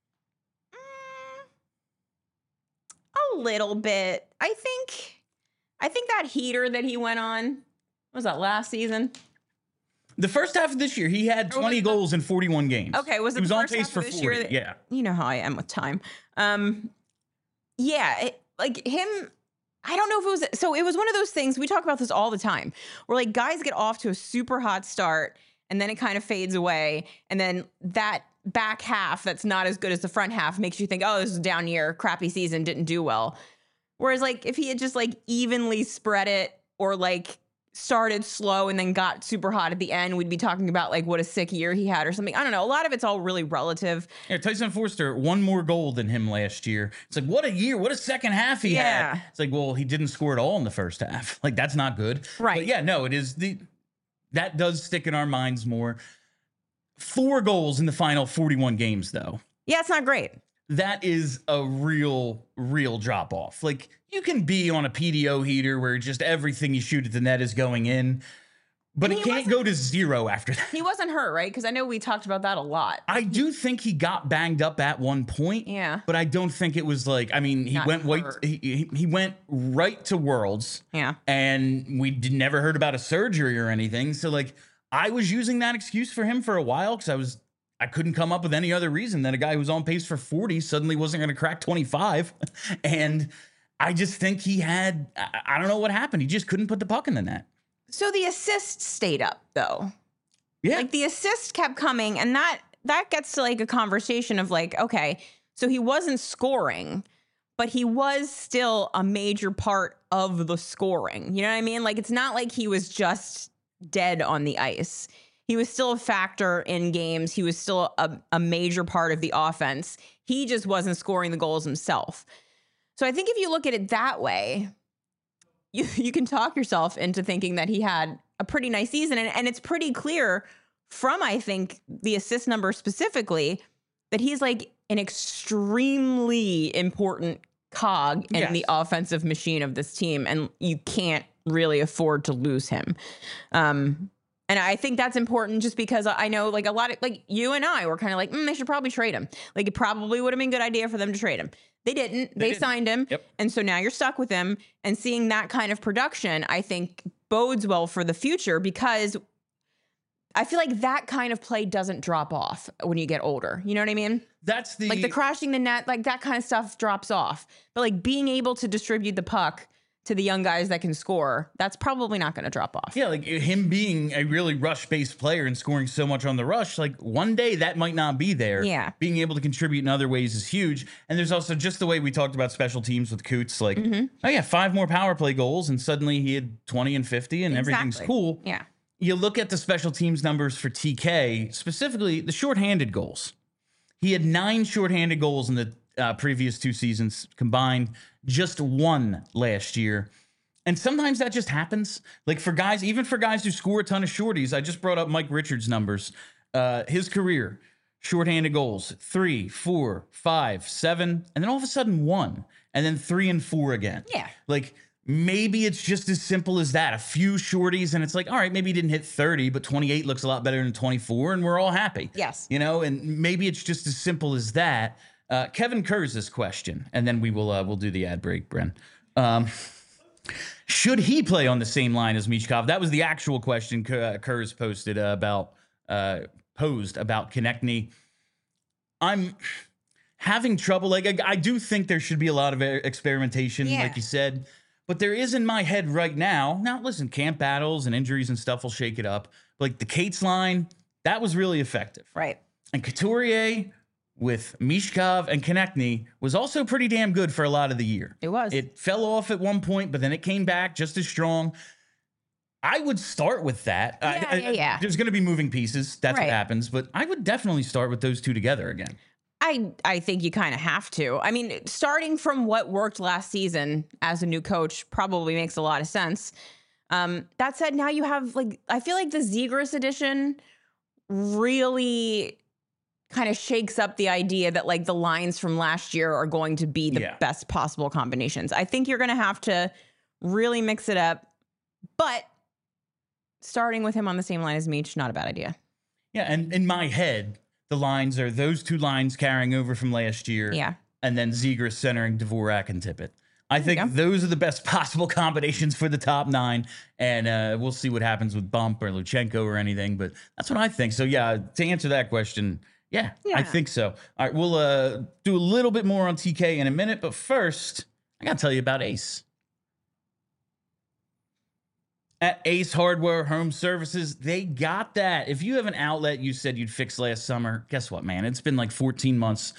A little bit. I think I think that heater that he went on, what was that last season? The first half of this year, he had Or was twenty it the- goals in forty-one games. Okay, was it he was the on first pace half for of this year forty? that- Yeah. You know how I am with time. Um yeah, it, like him I don't know if it was so it was one of those things, we talk about this all the time, where like guys get off to a super hot start and then it kind of fades away, and then that back half that's not as good as the front half makes you think, oh, this is a down year, crappy season, didn't do well. Whereas like if he had just like evenly spread it, or like started slow and then got super hot at the end, we'd be talking about like what a sick year he had or something. I don't know. A lot of it's all really relative. Yeah, Tyson Forster, one more goal than him last year. It's like, what a year, what a second half he Yeah. had. It's like, well, he didn't score at all in the first half. Like, that's not good. Right. But yeah, no, it is the that does stick in our minds more. Four goals in the final forty-one games, though. Yeah, it's not great. That is a real, real drop off. Like, you can be on a P D O heater where just everything you shoot at the net is going in, but And it he can't go to zero after that. He wasn't hurt, right? Because I know we talked about that a lot. I do think he got banged up at one point. Yeah. But I don't think it was like, I mean, he Not went right, hurt. he, he he went right to Worlds, Yeah. and we did, never heard about a surgery or anything. So like, I was using that excuse for him for a while because I was I couldn't come up with any other reason that a guy who was on pace for forty suddenly wasn't going to crack twenty-five, and I just think he had I, I don't know what happened. He just couldn't put the puck in the net. So the assist stayed up though. Yeah, Like the assist kept coming, and that that gets to like a conversation of like, okay, so he wasn't scoring, but he was still a major part of the scoring. You know what I mean? Like it's not like he was just dead on the ice. He was still a factor in games. He was still a, a major part of the offense. He just wasn't scoring the goals himself. So I think if you look at it that way, you you can talk yourself into thinking that he had a pretty nice season. And, and it's pretty clear from, I think, the assist number specifically, that he's like an extremely important cog in Yes. the offensive machine of this team. And you can't really afford to lose him. Um, and I think that's important just because I know like a lot of like you and I were kind of like, mm, they should probably trade him. Like it probably would have been a good idea for them to trade him. They didn't. They, didn't. signed him. Yep. And so now you're stuck with him, and seeing that kind of production, I think bodes well for the future, because I feel like that kind of play doesn't drop off when you get older. You know what I mean? That's the Like the crashing the net, like that kind of stuff drops off. But like being able to distribute the puck to the young guys that can score, that's probably not going to drop off. Yeah, like him being a really rush-based player and scoring so much on the rush, like one day that might not be there. Yeah. Being able to contribute in other ways is huge. And there's also just the way we talked about special teams with Coots, like, mm-hmm. oh yeah, five more power play goals, and suddenly he had twenty and fifty, and Exactly. everything's cool. Yeah. You look at the special teams numbers for T K, specifically the shorthanded goals. He had nine shorthanded goals in the uh, previous two seasons combined, just one last year. And sometimes that just happens. Like for guys, even for guys who score a ton of shorties, I just brought up Mike Richards' numbers. Uh, his career, shorthanded goals, three, four, five, seven, and then all of a sudden one, and then three and four again. Yeah. Like maybe it's just as simple as that. A few shorties, and it's like, all right, maybe he didn't hit thirty, but twenty-eight looks a lot better than twenty-four, and we're all happy. Yes. You know, and maybe it's just as simple as that. Uh, Kevin Kurz' question, and then we will uh, we'll do the ad break, Bren. Um, Should he play on the same line as Michkov? That was the actual question Kurz posted uh, about uh, posed about Konechny. I'm having trouble. Like I, I do think there should be a lot of experimentation, yeah. like you said, but there is in my head right now. Now, listen, camp battles and injuries and stuff will shake it up. Like the Cates line, that was really effective, right? And Couturier with Michkov and Konechny was also pretty damn good for a lot of the year. It was. It fell off at one point, but then it came back just as strong. I would start with that. Yeah, I, yeah, yeah. There's going to be moving pieces. That's right. what happens. But I would definitely start with those two together again. I, I think you kind of have to. I mean, starting from what worked last season as a new coach probably makes a lot of sense. Um, that said, now you have, like, I feel like the Zegras edition really kind of shakes up the idea that like the lines from last year are going to be the yeah. best possible combinations. I think you're going to have to really mix it up, but starting with him on the same line as Meach, not a bad idea. Yeah. And in my head, the lines are those two lines carrying over from last year. Yeah. And then Zegras centering Dvorak and Tippett. I think those are the best possible combinations for the top nine, and uh, we'll see what happens with Bump or Luchenko or anything, but that's what I think. So yeah, to answer that question, Yeah, yeah, I think so. All right, we'll uh, do a little bit more on T K in a minute, but first, I got to tell you about Ace. At Ace Hardware Home Services, they got that. If you have an outlet you said you'd fix last summer, guess what, man? It's been like fourteen months.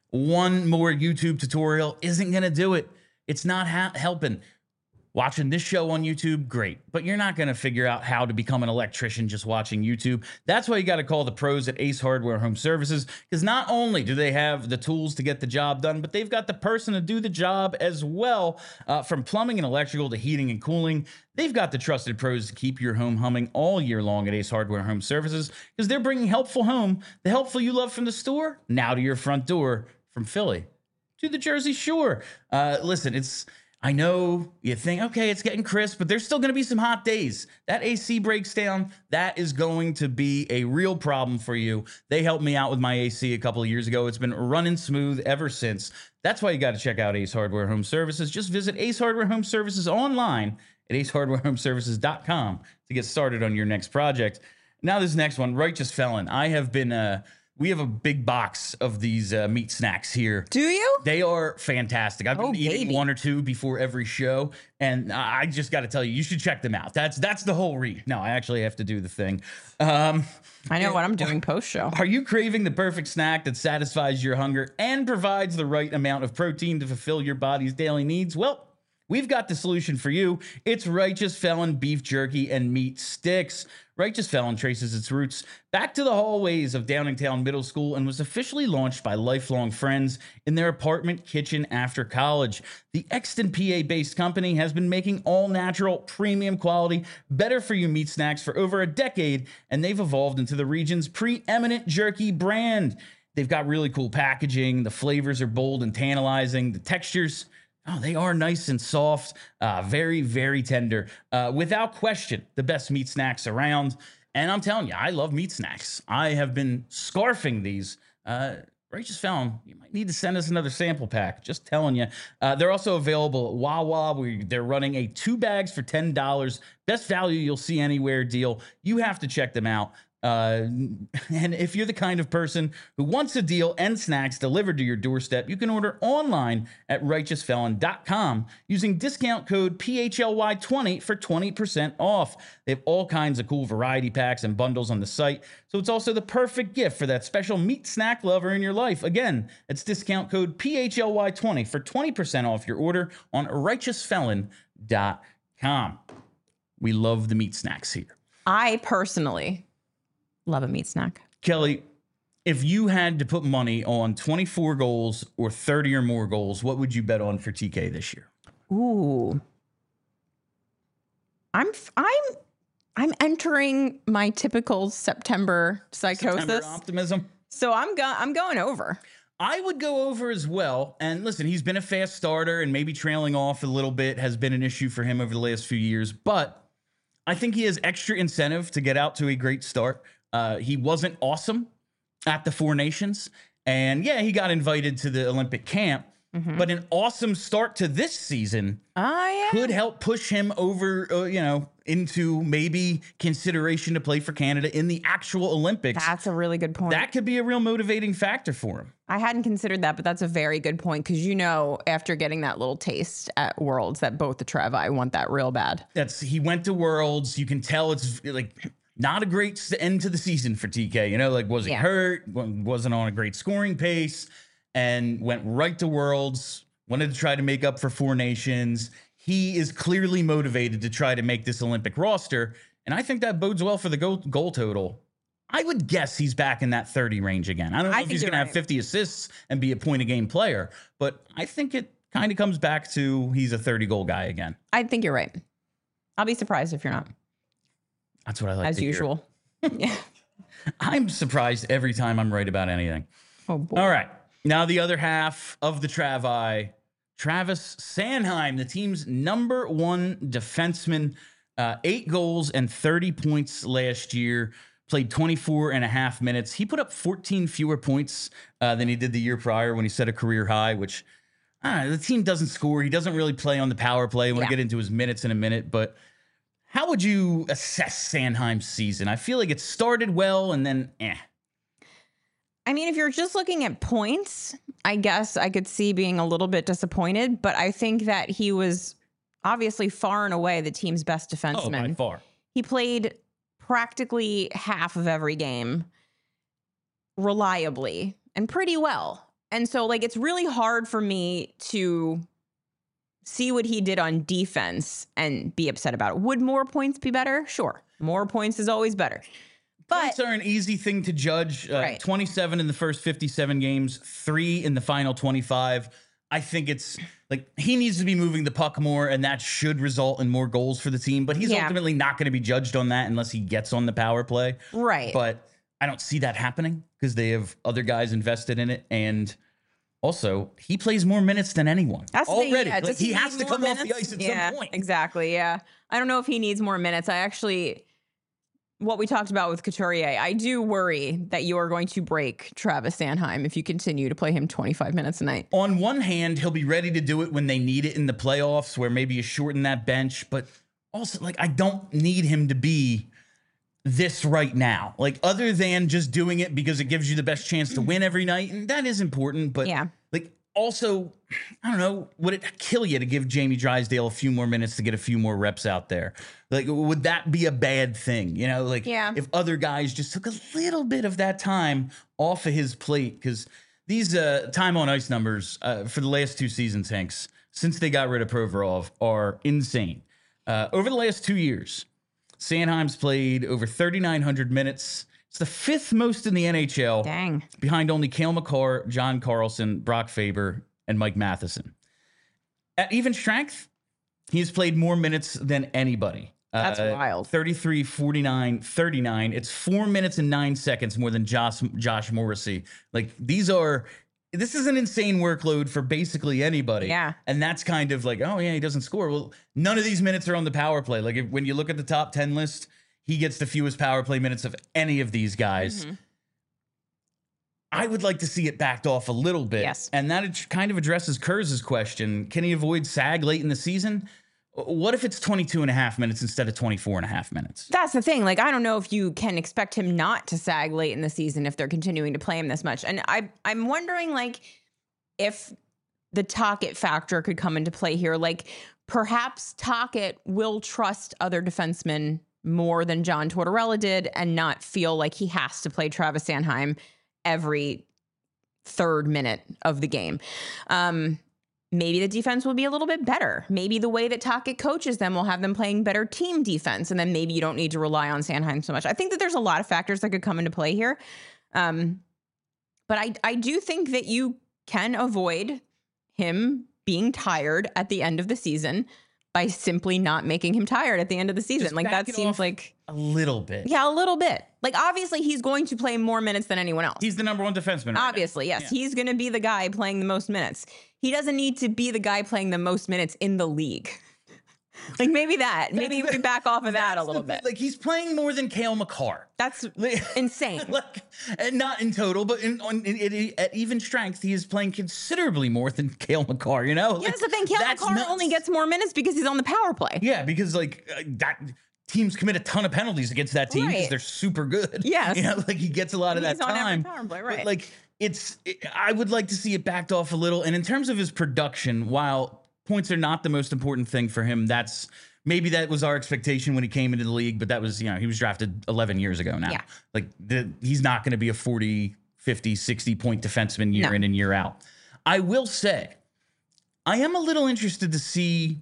One more YouTube tutorial isn't going to do it. It's not ha- helping. Watching this show on YouTube, great. But you're not going to figure out how to become an electrician just watching YouTube. That's why you got to call the pros at Ace Hardware Home Services, because not only do they have the tools to get the job done, but they've got the person to do the job as well. Uh, from plumbing and electrical to heating and cooling, they've got the trusted pros to keep your home humming all year long at Ace Hardware Home Services, because they're bringing helpful home, the helpful you love from the store, now to your front door, from Philly to the Jersey Shore. Uh, listen, it's... I know you think, okay, it's getting crisp, but there's still going to be some hot days. That A C breaks down. That is going to be a real problem for you. They helped me out with my A C a couple of years ago. It's been running smooth ever since. That's why you got to check out Ace Hardware Home Services. Just visit Ace Hardware Home Services online at ace hardware home services dot com to get started on your next project. Now this next one, Righteous Felon. I have been... Uh, We have a big box of these uh, meat snacks here. Do you? They are fantastic. I've been oh, eating baby. one or two before every show, and I just got to tell you, you should check them out. That's that's the whole read. No, I actually have to do the thing. Um, I know what I'm doing post-show. Are you craving the perfect snack that satisfies your hunger and provides the right amount of protein to fulfill your body's daily needs? Well, we've got the solution for you. It's Righteous Felon beef jerky and meat sticks. Righteous Felon traces its roots back to the hallways of Downingtown Middle School and was officially launched by lifelong friends in their apartment kitchen after college. The Exton, P A-based company has been making all-natural, premium quality, better-for-you meat snacks for over a decade, and they've evolved into the region's preeminent jerky brand. They've got really cool packaging. The flavors are bold and tantalizing. The textures... Oh, they are nice and soft, uh, very, very tender. Uh, without question, the best meat snacks around. And I'm telling you, I love meat snacks. I have been scarfing these. Uh, Righteous Felon, you might need to send us another sample pack. Just telling you. Uh, they're also available at Wawa, where they're running a two bags for ten dollars. Best value you'll see anywhere deal. You have to check them out. Uh, and if you're the kind of person who wants a deal and snacks delivered to your doorstep, you can order online at righteous felon dot com using discount code P H L Y twenty for twenty percent off. They have all kinds of cool variety packs and bundles on the site, so it's also the perfect gift for that special meat snack lover in your life. Again, it's discount code P H L Y twenty for twenty percent off your order on righteous felon dot com. We love the meat snacks here. I personally love a meat snack. Kelly, if you had to put money on twenty-four goals or thirty or more goals, what would you bet on for T K this year? Ooh. I'm I'm I'm entering my typical September psychosis. September optimism. So I'm go- I'm going over. I would go over as well. And listen, he's been a fast starter, and maybe trailing off a little bit has been an issue for him over the last few years. But I think he has extra incentive to get out to a great start. Uh, he wasn't awesome at the Four Nations. And yeah, he got invited to the Olympic camp. Mm-hmm. But an awesome start to this season oh, yeah. could help push him over, uh, you know, into maybe consideration to play for Canada in the actual Olympics. That's a really good point. That could be a real motivating factor for him. I hadn't considered that, but that's a very good point because, you know, after getting that little taste at Worlds, that both the Trevi want that real bad. That's he went to Worlds. You can tell it's like not a great end to the season for T K. You know, like was he yeah. hurt? Wasn't on a great scoring pace. And went right to Worlds, wanted to try to make up for Four Nations. He is clearly motivated to try to make this Olympic roster, and I think that bodes well for the goal, goal total. I would guess he's back in that thirty range again. I don't know I if he's going right. to have fifty assists and be a point-a-game player, but I think it kind of comes back to he's a thirty-goal guy again. I think you're right. I'll be surprised if you're not. That's what I like As to usual. Yeah. I'm surprised every time I'm right about anything. Oh, boy. All right. Now, the other half of the Travi, Travis Sanheim, the team's number one defenseman, uh, eight goals and thirty points last year, played twenty-four and a half minutes. He put up fourteen fewer points uh, than he did the year prior when he set a career high, which I don't know, the team doesn't score. He doesn't really play on the power play. We'll yeah. get into his minutes in a minute, but how would you assess Sanheim's season? I feel like it started well and then eh. I mean, if you're just looking at points, I guess I could see being a little bit disappointed, but I think that he was obviously far and away the team's best defenseman. Oh, by far. He played practically half of every game reliably and pretty well. And so, like, it's really hard for me to see what he did on defense and be upset about it. Would more points be better? Sure. More points is always better. But points are an easy thing to judge. Uh, right. twenty-seven in the first fifty-seven games, three in the final twenty-five. I think it's like he needs to be moving the puck more, and that should result in more goals for the team. But he's yeah. ultimately not going to be judged on that unless he gets on the power play. Right. But I don't see that happening because they have other guys invested in it. And also, he plays more minutes than anyone. That's already. The, yeah, like, he, he has to come minutes? off the ice at yeah, some point. Exactly. Yeah. I don't know if he needs more minutes. I actually... What we talked about with Couturier, I do worry that you are going to break Travis Sanheim if you continue to play him twenty-five minutes a night. On one hand, he'll be ready to do it when they need it in the playoffs, where maybe you shorten that bench. But also, like, I don't need him to be this right now. Like, other than just doing it because it gives you the best chance to win every night. And that is important. But, yeah. like, also, I don't know, would it kill you to give Jamie Drysdale a few more minutes to get a few more reps out there? Like, would that be a bad thing? You know, like yeah. if other guys just took a little bit of that time off of his plate, because these uh, time on ice numbers uh, for the last two seasons, Hanks, since they got rid of Provorov, are insane. Uh, over the last two years, Sanheim's played over thirty-nine hundred minutes. It's the fifth most in the N H L. Dang. Behind only Cale Makar, John Carlson, Brock Faber, and Mike Matheson. At even strength, he's played more minutes than anybody. That's uh, wild. thirty-three, forty-nine, thirty-nine. It's four minutes and nine seconds more than Josh, Josh Morrissey. Like, these are... This is an insane workload for basically anybody. Yeah. And that's kind of like, oh, yeah, he doesn't score. Well, none of these minutes are on the power play. Like, if, when you look at the top ten list, he gets the fewest power play minutes of any of these guys. Mm-hmm. I would like to see it backed off a little bit. Yes. And that kind of addresses Kurz's question. Can he avoid SAG late in the season? What if it's twenty-two and a half minutes instead of twenty-four and a half minutes? That's the thing. Like, I don't know if you can expect him not to sag late in the season if they're continuing to play him this much. And I, I'm wondering, like, if the Tocchet factor could come into play here. Like, perhaps Tocchet will trust other defensemen more than John Tortorella did and not feel like he has to play Travis Sanheim every third minute of the game. Um, maybe the defense will be a little bit better. Maybe the way that Tocchet coaches them will have them playing better team defense, and then maybe you don't need to rely on Sanheim so much. I think that there's a lot of factors that could come into play here. Um, but I, I do think that you can avoid him being tired at the end of the season by simply not making him tired at the end of the season. Just like back that it seems off like a little bit. Yeah, a little bit. Like, obviously he's going to play more minutes than anyone else. He's the number one defenseman. Right Obviously, now. yes. Yeah. He's going to be the guy playing the most minutes. He doesn't need to be the guy playing the most minutes in the league. Like, maybe that. Maybe we back off of that a little the, bit. Like, he's playing more than Cale Makar. That's insane. Like, and not in total, but in, on, in, in, at even strength, he is playing considerably more than Cale Makar, you know? Yeah, that's the thing. Cale that's Makar nuts. only gets more minutes because he's on the power play. Yeah, because, like, uh, that teams commit a ton of penalties against that team because Right. they're super good. Yes. You know, like, he gets a lot of He's that on every time. power play, But, right. like, it's, it, I would like to see it backed off a little. And in terms of his production, while points are not the most important thing for him, that's, maybe that was our expectation when he came into the league, but that was, you know, he was drafted eleven years ago now. Yeah. Like, the, he's not going to be a forty, fifty, sixty point defenseman year No. in and year out. I will say, I am a little interested to see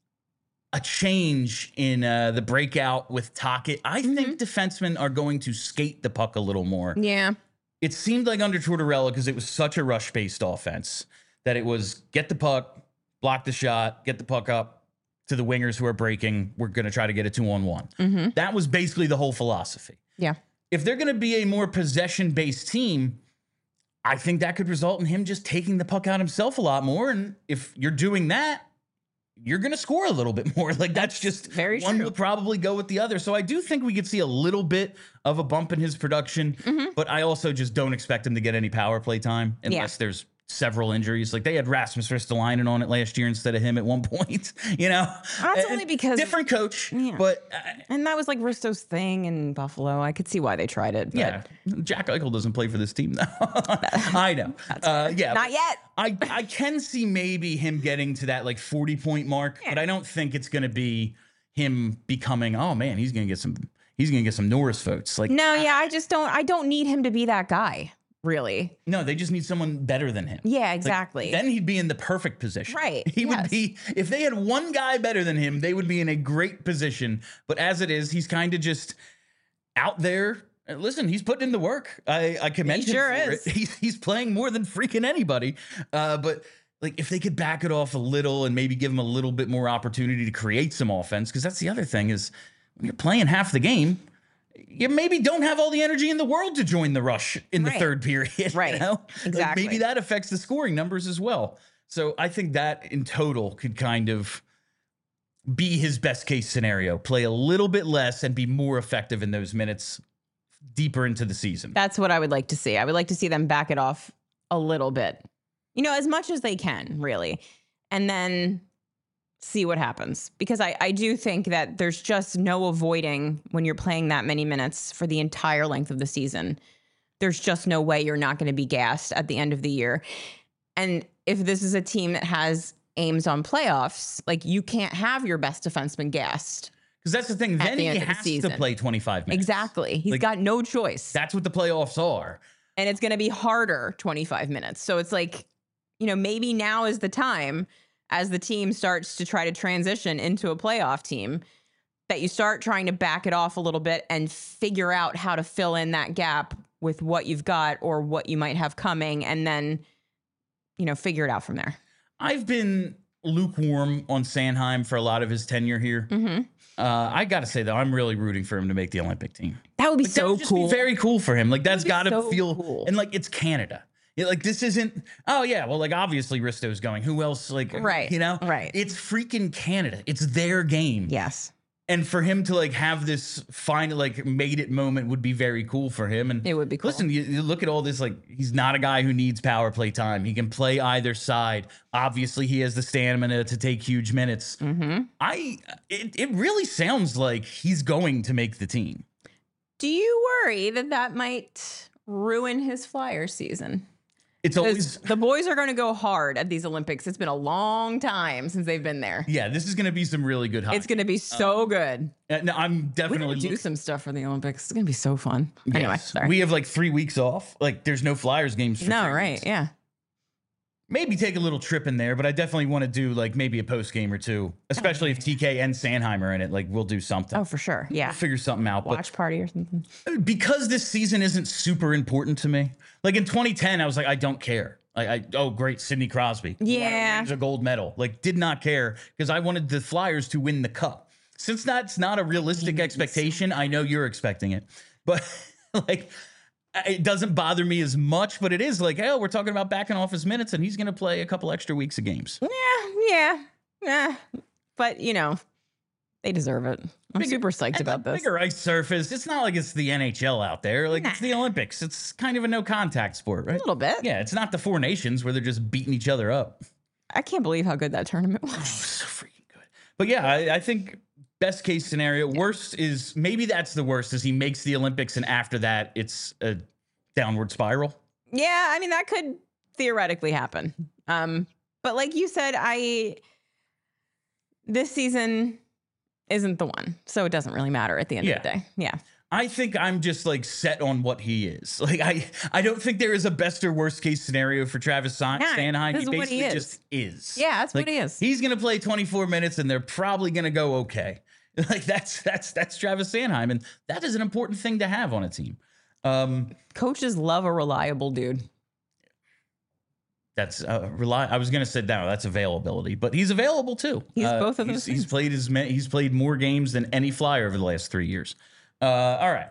a change in uh, the breakout with Tocchet. I Mm-hmm. think defensemen are going to skate the puck a little more. Yeah. It seemed like under Tortorella, because it was such a rush-based offense, that it was get the puck, block the shot, get the puck up to the wingers who are breaking. We're going to try to get a two-on-one. Mm-hmm. That was basically the whole philosophy. Yeah. If they're going to be a more possession-based team, I think that could result in him just taking the puck out himself a lot more. And if you're doing that, you're going to score a little bit more. Like, that's just very one true. will probably go with the other. So I do think we could see a little bit of a bump in his production, Mm-hmm. but I also just don't expect him to get any power play time unless Yeah. there's several injuries. Like, they had Rasmus Ristolainen on it last year instead of him at one point, you know? That's And- only because- different coach, Yeah. but uh, And that was like Risto's thing in Buffalo. I could see why they tried it. But yeah, Jack Eichel doesn't play for this team though. I know. Uh, yeah, Not yet. I, I can see maybe him getting to that like forty point mark, Yeah. but I don't think it's going to be him becoming, oh man, he's going to get some, he's going to get some Norris votes. Like, No, yeah, I just don't I don't need him to be that guy, really. no, they just need someone better than him. Yeah, Like, exactly. then he'd be in the perfect position. Right, He would yes. be, if they had one guy better than him, they would be in a great position. But as it is, he's kind of just out there. Uh, Listen, he's putting in the work. I, I commend He him sure for is. it. He's, he's playing more than freaking anybody. Uh, but like, if they could back it off a little and maybe give him a little bit more opportunity to create some offense, because that's the other thing is when you're playing half the game, you maybe don't have all the energy in the world to join the rush in the Right. third period. Right. You know? Like, Exactly. maybe that affects the scoring numbers as well. So I think that in total could kind of be his best case scenario. Play a little bit less and be more effective in those minutes deeper into the season. That's what I would like to see. I would like to see them back it off a little bit. You know, as much as they can, really. And then see what happens. Because I, I do think that there's just no avoiding when you're playing that many minutes for the entire length of the season. There's just no way you're not going to be gassed at the end of the year. And if this is a team that has aims on playoffs, like, you can't have your best defenseman gassed. Because that's the thing. At Then the he end of the has to season. play twenty-five minutes. Exactly. He's Like, got no choice. That's what the playoffs are. And it's going to be harder twenty-five minutes. So it's like, you know, maybe now is the time as the team starts to try to transition into a playoff team that you start trying to back it off a little bit and figure out how to fill in that gap with what you've got or what you might have coming, and then, you know, figure it out from there. I've been lukewarm on Sanheim for a lot of his tenure here. Mm-hmm. Uh, I got to say, though, I'm really rooting for him to make the Olympic team. That would be Like, that so would just cool. Be very cool for him. Like, that's be got to so feel cool. and like it's Canada. Yeah, like, this isn't. Oh yeah, well, like, obviously Risto's going. Who else? Like, Right, You know, right. It's freaking Canada. It's their game. Yes. And for him to like have this fine, like made it moment would be very cool for him. And It would be cool. Listen, you, you look at all this, like he's not a guy who needs power play time. He can play either side. Obviously, he has the stamina to take huge minutes. Mm-hmm. I, it, it really sounds like he's going to make the team. Do you worry that that might ruin his Flyer season? It's always the boys are going to go hard at these Olympics. It's been a long time since they've been there. Yeah, this is going to be some really good hockey. It's going to be so um, good. Uh, no, I'm definitely We're gonna do look- some stuff for the Olympics. It's going to be so fun. Yes. Anyway, sorry. We have like three weeks off. Like there's no Flyers games. For no, three right? weeks. Yeah. Maybe take a little trip in there, but I definitely want to do like maybe a post game or two, especially if T K and Sanheim are in it. Like we'll do something. Oh, for sure. Yeah. We'll figure something out. Watch party or something. But because this season isn't super important to me, like in twenty ten, I was like, I don't care. Like, I oh great, Sidney Crosby. Yeah. Wins a gold medal. Like, did not care because I wanted the Flyers to win the cup. Since that's not a realistic expectation, I know you're expecting it, but like. It doesn't bother me as much, but it is like, oh, we're talking about backing off his minutes, and he's going to play a couple extra weeks of games. Yeah, yeah, yeah. But you know, they deserve it. I'm Bigger, super psyched about this. Bigger ice surface. It's not like it's the N H L out there. Like nah. It's the Olympics. It's kind of a no contact sport, right? A little bit. Yeah, it's not the Four Nations where they're just beating each other up. I can't believe how good that tournament was. Oh, so freaking good. But yeah, I, I think. Best case scenario. Yeah. Worst is maybe that's the worst is he makes the Olympics and after that it's a downward spiral. Yeah, I mean that could theoretically happen. Um, but like you said, I this season isn't the one, so it doesn't really matter at the end yeah. of the day. Yeah. I think I'm just like set on what he is. Like I, I don't think there is a best or worst case scenario for Travis San- yeah, Sanheim. He basically he is. just is. Yeah, that's like, what he is. He's gonna play twenty-four minutes, and they're probably gonna go okay. Like that's that's that's Travis Sanheim, and that is an important thing to have on a team. Um, Coaches love a reliable dude. That's uh, rely. I was gonna say no, that's availability, but he's available too. He's uh, both of those. He's, things. he's played his he's played more games than any Flyer over the last three years. Uh, all right.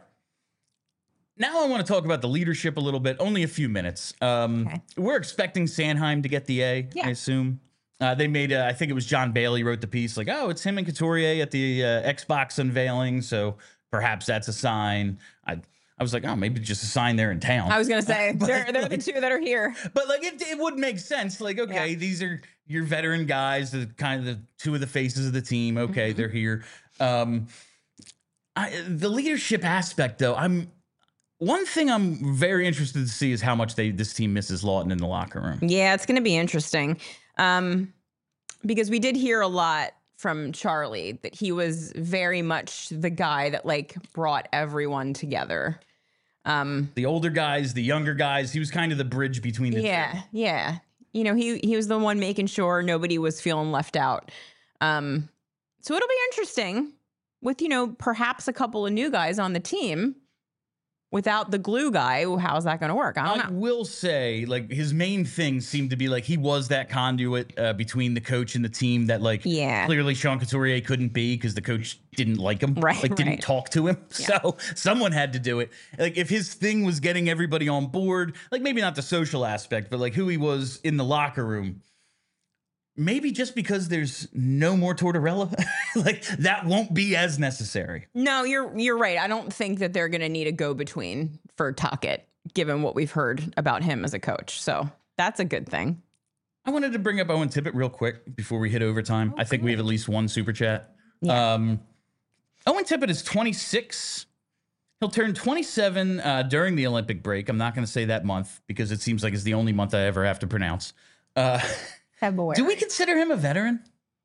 Now I want to talk about the leadership a little bit. Only a few minutes. Um, okay. We're expecting Sanheim to get the A. Yeah. I assume. Uh, they made, uh, I think it was John Bailey wrote the piece like, oh, it's him and Couturier at the uh, Xbox unveiling. So perhaps that's a sign. I I was like, oh, maybe just a sign they're in town. I was going to say, but, they're, they're like, the two that are here. But like, it, it would make sense. Like, okay, yeah. these are your veteran guys, the kind of the two of the faces of the team. Okay, mm-hmm. they're here. Um, I, the leadership aspect, though, I'm one thing I'm very interested to see is how much they this team misses Lawton in the locker room. Yeah, it's going to be interesting. Um, because we did hear a lot from Charlie that he was very much the guy that like brought everyone together. Um, the older guys, the younger guys, he was kind of the bridge between the yeah, two. Yeah. You know, he, he was the one making sure nobody was feeling left out. Um, so it'll be interesting with, you know, perhaps a couple of new guys on the team. Without the glue guy, how's that going to work? I don't I know. will say, like, his main thing seemed to be, like, he was that conduit uh, between the coach and the team that, like, yeah. clearly Sean Couturier couldn't be because the coach didn't like him. Right, Like, didn't right. talk to him. Yeah. So someone had to do it. Like, if his thing was getting everybody on board, like, maybe not the social aspect, but, like, who he was in the locker room, maybe just because there's no more Tortorella, like, that won't be as necessary. No, you're you're right. I don't think that they're going to need a go-between for Tuckett, given what we've heard about him as a coach. So that's a good thing. I wanted to bring up Owen Tippett real quick before we hit overtime. Oh, I think good. we have at least one super chat. Yeah. Um, Owen Tippett is twenty-six. He'll turn twenty-seven uh, during the Olympic break. I'm not going to say that month because it seems like it's the only month I ever have to pronounce. Uh, February. do we consider him a veteran?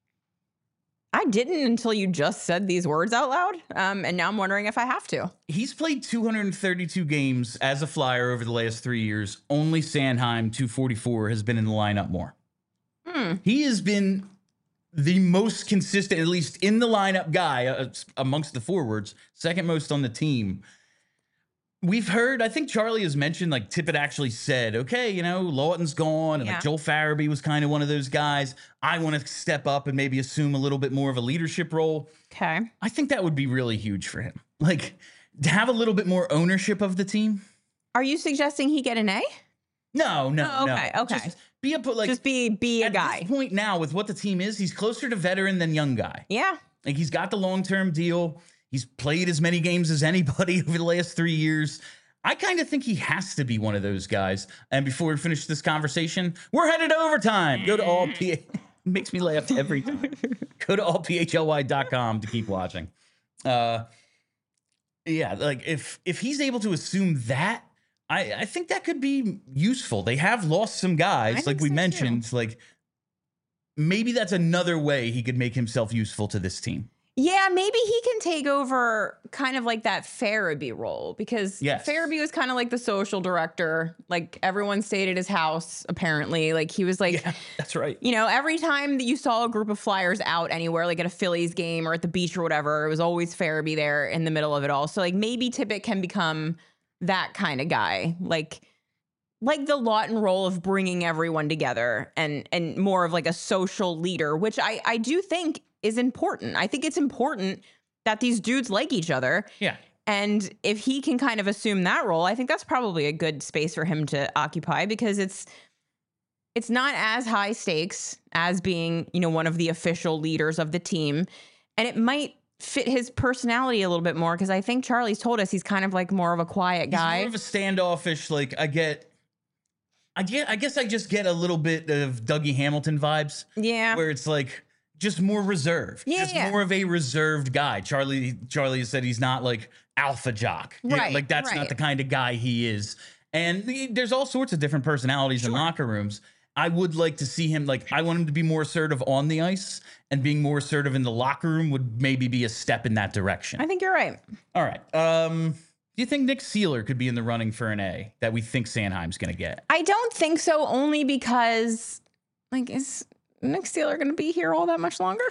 I didn't until you just said these words out loud. Um, and now I'm wondering if I have to. He's played two hundred thirty-two games as a Flyer over the last three years. Only Sanheim, two forty-four, has been in the lineup more. Hmm. He has been the most consistent, at least in the lineup guy uh, amongst the forwards, second most on the team. We've heard, I think Charlie has mentioned, like Tippett actually said, okay, you know, Lawton's gone, and Yeah. like Joel Farabee was kind of one of those guys. I want to step up and maybe assume a little bit more of a leadership role. Okay. I think that would be really huge for him. Like, to have a little bit more ownership of the team. Are you suggesting he get an A? No, no, Oh, okay, no. okay. Just be a like Just be be a at guy. this point now with what the team is, he's closer to veteran than young guy. Yeah. Like, he's got the long-term deal. He's played as many games as anybody over the last three years. I kind of think he has to be one of those guys. And before we finish this conversation, we're headed to overtime. Go to all P. It makes me laugh every time. Go to all P H L Y dot com to keep watching. Uh, yeah, like if if he's able to assume that, I, I think that could be useful. They have lost some guys, like we so mentioned. Too. Like maybe that's another way he could make himself useful to this team. Yeah, maybe he can take over kind of like that Farabee role, because yes. Farabee was kind of like the social director. Like everyone stayed at his house, apparently. Like he was like, yeah, that's right. You know, every time that you saw a group of Flyers out anywhere, like at a Phillies game or at the beach or whatever, it was always Farabee there in the middle of it all. So like maybe Tippett can become that kind of guy, like like the Lawton role of bringing everyone together and and more of like a social leader, which I I do think is important. I think it's important that these dudes like each other. Yeah. And if he can kind of assume that role, I think that's probably a good space for him to occupy, because it's it's not as high stakes as being, you know, one of the official leaders of the team. And it might fit his personality a little bit more, because I think Charlie's told us he's kind of like more of a quiet guy. He's more of a standoffish, like I get I get I guess I just get a little bit of Dougie Hamilton vibes. Yeah. Where it's like just more reserved, yeah, just yeah. more of a reserved guy. Charlie, Charlie has said he's not like alpha jock. Right, like that's right. not the kind of guy he is. And the, there's all sorts of different personalities sure. in locker rooms. I would like to see him, like, I want him to be more assertive on the ice, and being more assertive in the locker room would maybe be a step in that direction. I think you're right. All right. Um, do you think Nick Seeler could be in the running for an A that we think Sanheim's going to get? I don't think so, only because, like, is Nick Seeler going to be here all that much longer?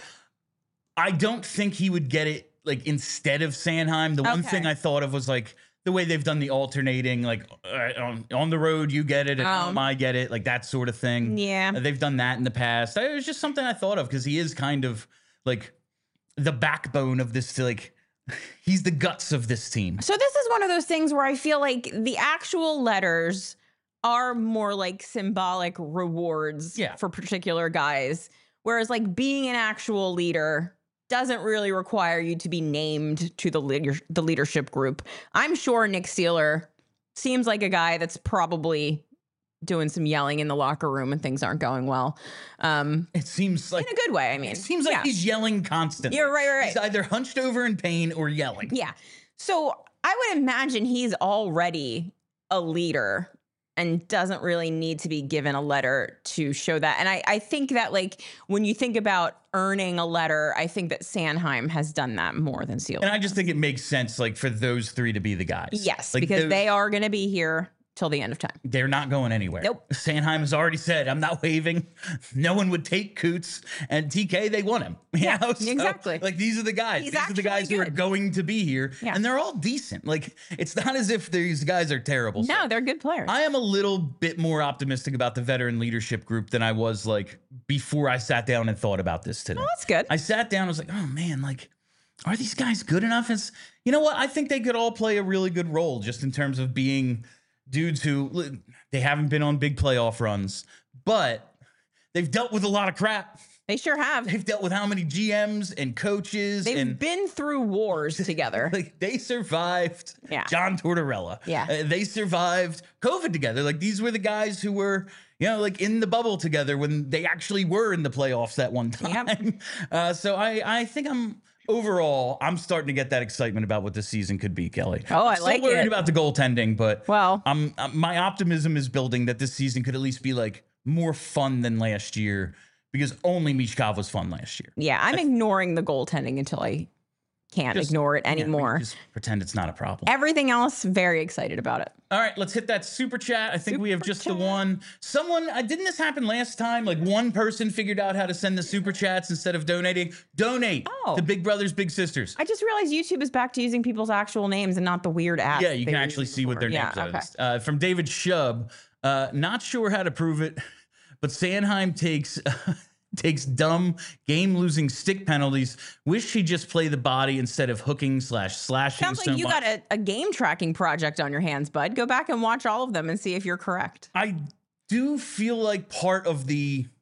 I don't think he would get it, like, instead of Sanheim. The okay. one thing I thought of was, like, the way they've done the alternating, like, uh, on, on the road, you get it, and um, I get it, like, that sort of thing. Yeah. Uh, they've done that in the past. It was just something I thought of, because he is kind of, like, the backbone of this, like, he's the guts of this team. So this is one of those things where I feel like the actual letters are more like symbolic rewards yeah. for particular guys. Whereas like being an actual leader doesn't really require you to be named to the leader, the leadership group. I'm sure Nick Seeler seems like a guy that's probably doing some yelling in the locker room and things aren't going well. Um, it seems like in a good way. I mean, it seems like yeah. he's yelling constantly. You're right, right, right. He's either hunched over in pain or yelling. Yeah. So I would imagine he's already a leader and doesn't really need to be given a letter to show that. And I, I think that, like, when you think about earning a letter, I think that Sanheim has done that more than Seeler. And I just think it makes sense, like, for those three to be the guys. Yes, like, because those, they are going to be here till the end of time. They're not going anywhere. Nope. Sanheim has already said, I'm not waving. No one would take Coots. And T K, they want him. You yeah, know? So, exactly. Like, these are the guys. He's these are the guys good. who are going to be here. Yeah. And they're all decent. Like, it's not as if these guys are terrible. No, so they're good players. I am a little bit more optimistic about the veteran leadership group than I was, like, before I sat down and thought about this today. Oh, that's good. I sat down and was like, oh, man, like, are these guys good enough? It's, you know what? I think they could all play a really good role just in terms of being dudes who, they haven't been on big playoff runs, but they've dealt with a lot of crap. They sure have. They've dealt with how many G Ms and coaches. They've and been through wars together. Like, they survived yeah. John Tortorella. Yeah. Uh, they survived COVID together. Like, these were the guys who were, you know, like, in the bubble together when they actually were in the playoffs at one time. Yep. Uh, so I, I think I'm... Overall, I'm starting to get that excitement about what this season could be, Kelly. Oh, I I'm like still worried it. about the goaltending, but well, I'm, I'm my optimism is building that this season could at least be like more fun than last year, because only Michkov was fun last year. Yeah, I'm That's, ignoring the goaltending until I can't just, ignore it yeah, anymore. Just pretend it's not a problem. Everything else, very excited about it. All right, let's hit that super chat. I think super we have just chat. the one. Someone, uh, didn't this happen last time? Like, one person figured out how to send the super chats instead of donating. Donate oh. to Big Brothers Big Sisters. I just realized YouTube is back to using people's actual names and not the weird app. Yeah, you can actually see what their names yeah, are. okay. Uh, from David Shub, uh, not sure how to prove it, but Sanheim takes... takes dumb game-losing stick penalties. Wish he'd just play the body instead of hooking slash slashing. Sounds so like you much. got a, a game tracking project on your hands, bud. Go back and watch all of them and see if you're correct. I do feel like part of the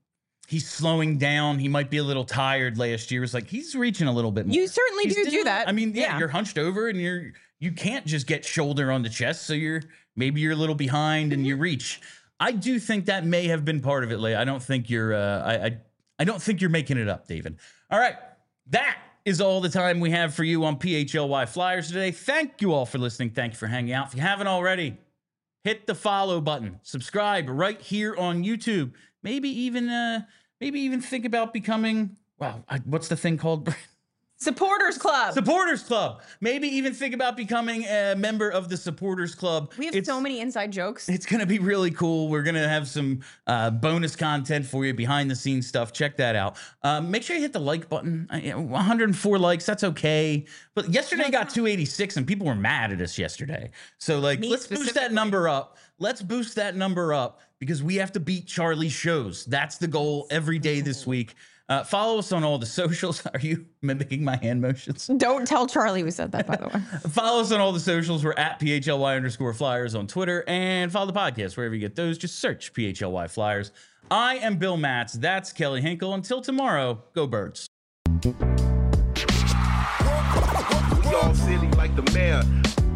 he's slowing down. He might be a little tired last year. It's like he's reaching a little bit more. You certainly He's do still- do that. I mean, yeah, Yeah. you're hunched over and you're you can't just get shoulder on the chest. So you're maybe you're a little behind and you reach. I do think that may have been part of it, Leia. I don't think you're uh, I, I I don't think you're making it up, David. All right. That is all the time we have for you on P H L Y Flyers today. Thank you all for listening. Thank you for hanging out. If you haven't already, hit the follow button. Subscribe right here on YouTube. Maybe even uh maybe even think about becoming wow, I, what's the thing called? Supporters Club. Supporters Club. Maybe even think about becoming a member of the Supporters Club. We have It's- so many inside jokes. It's going to be really cool. We're going to have some uh, bonus content for you, behind the scenes stuff. Check that out. Um, make sure you hit the like button. I- you know, one hundred four likes. That's okay. But yesterday got two eighty-six and people were mad at us yesterday. So like, Me let's boost that specifically. number up. Let's boost that number up because we have to beat Charlie's shows. That's the goal every day this week. Uh, follow us on all the socials. Are you mimicking my hand motions? Don't tell Charlie we said that, by the way. Follow us on all the socials. We're at P H L Y underscore Flyers on Twitter, and follow the podcast wherever you get those. Just search P H L Y Flyers. I am Bill Matz. That's Kelly Hinkle. Until tomorrow, go Birds. We all silly like the mayor.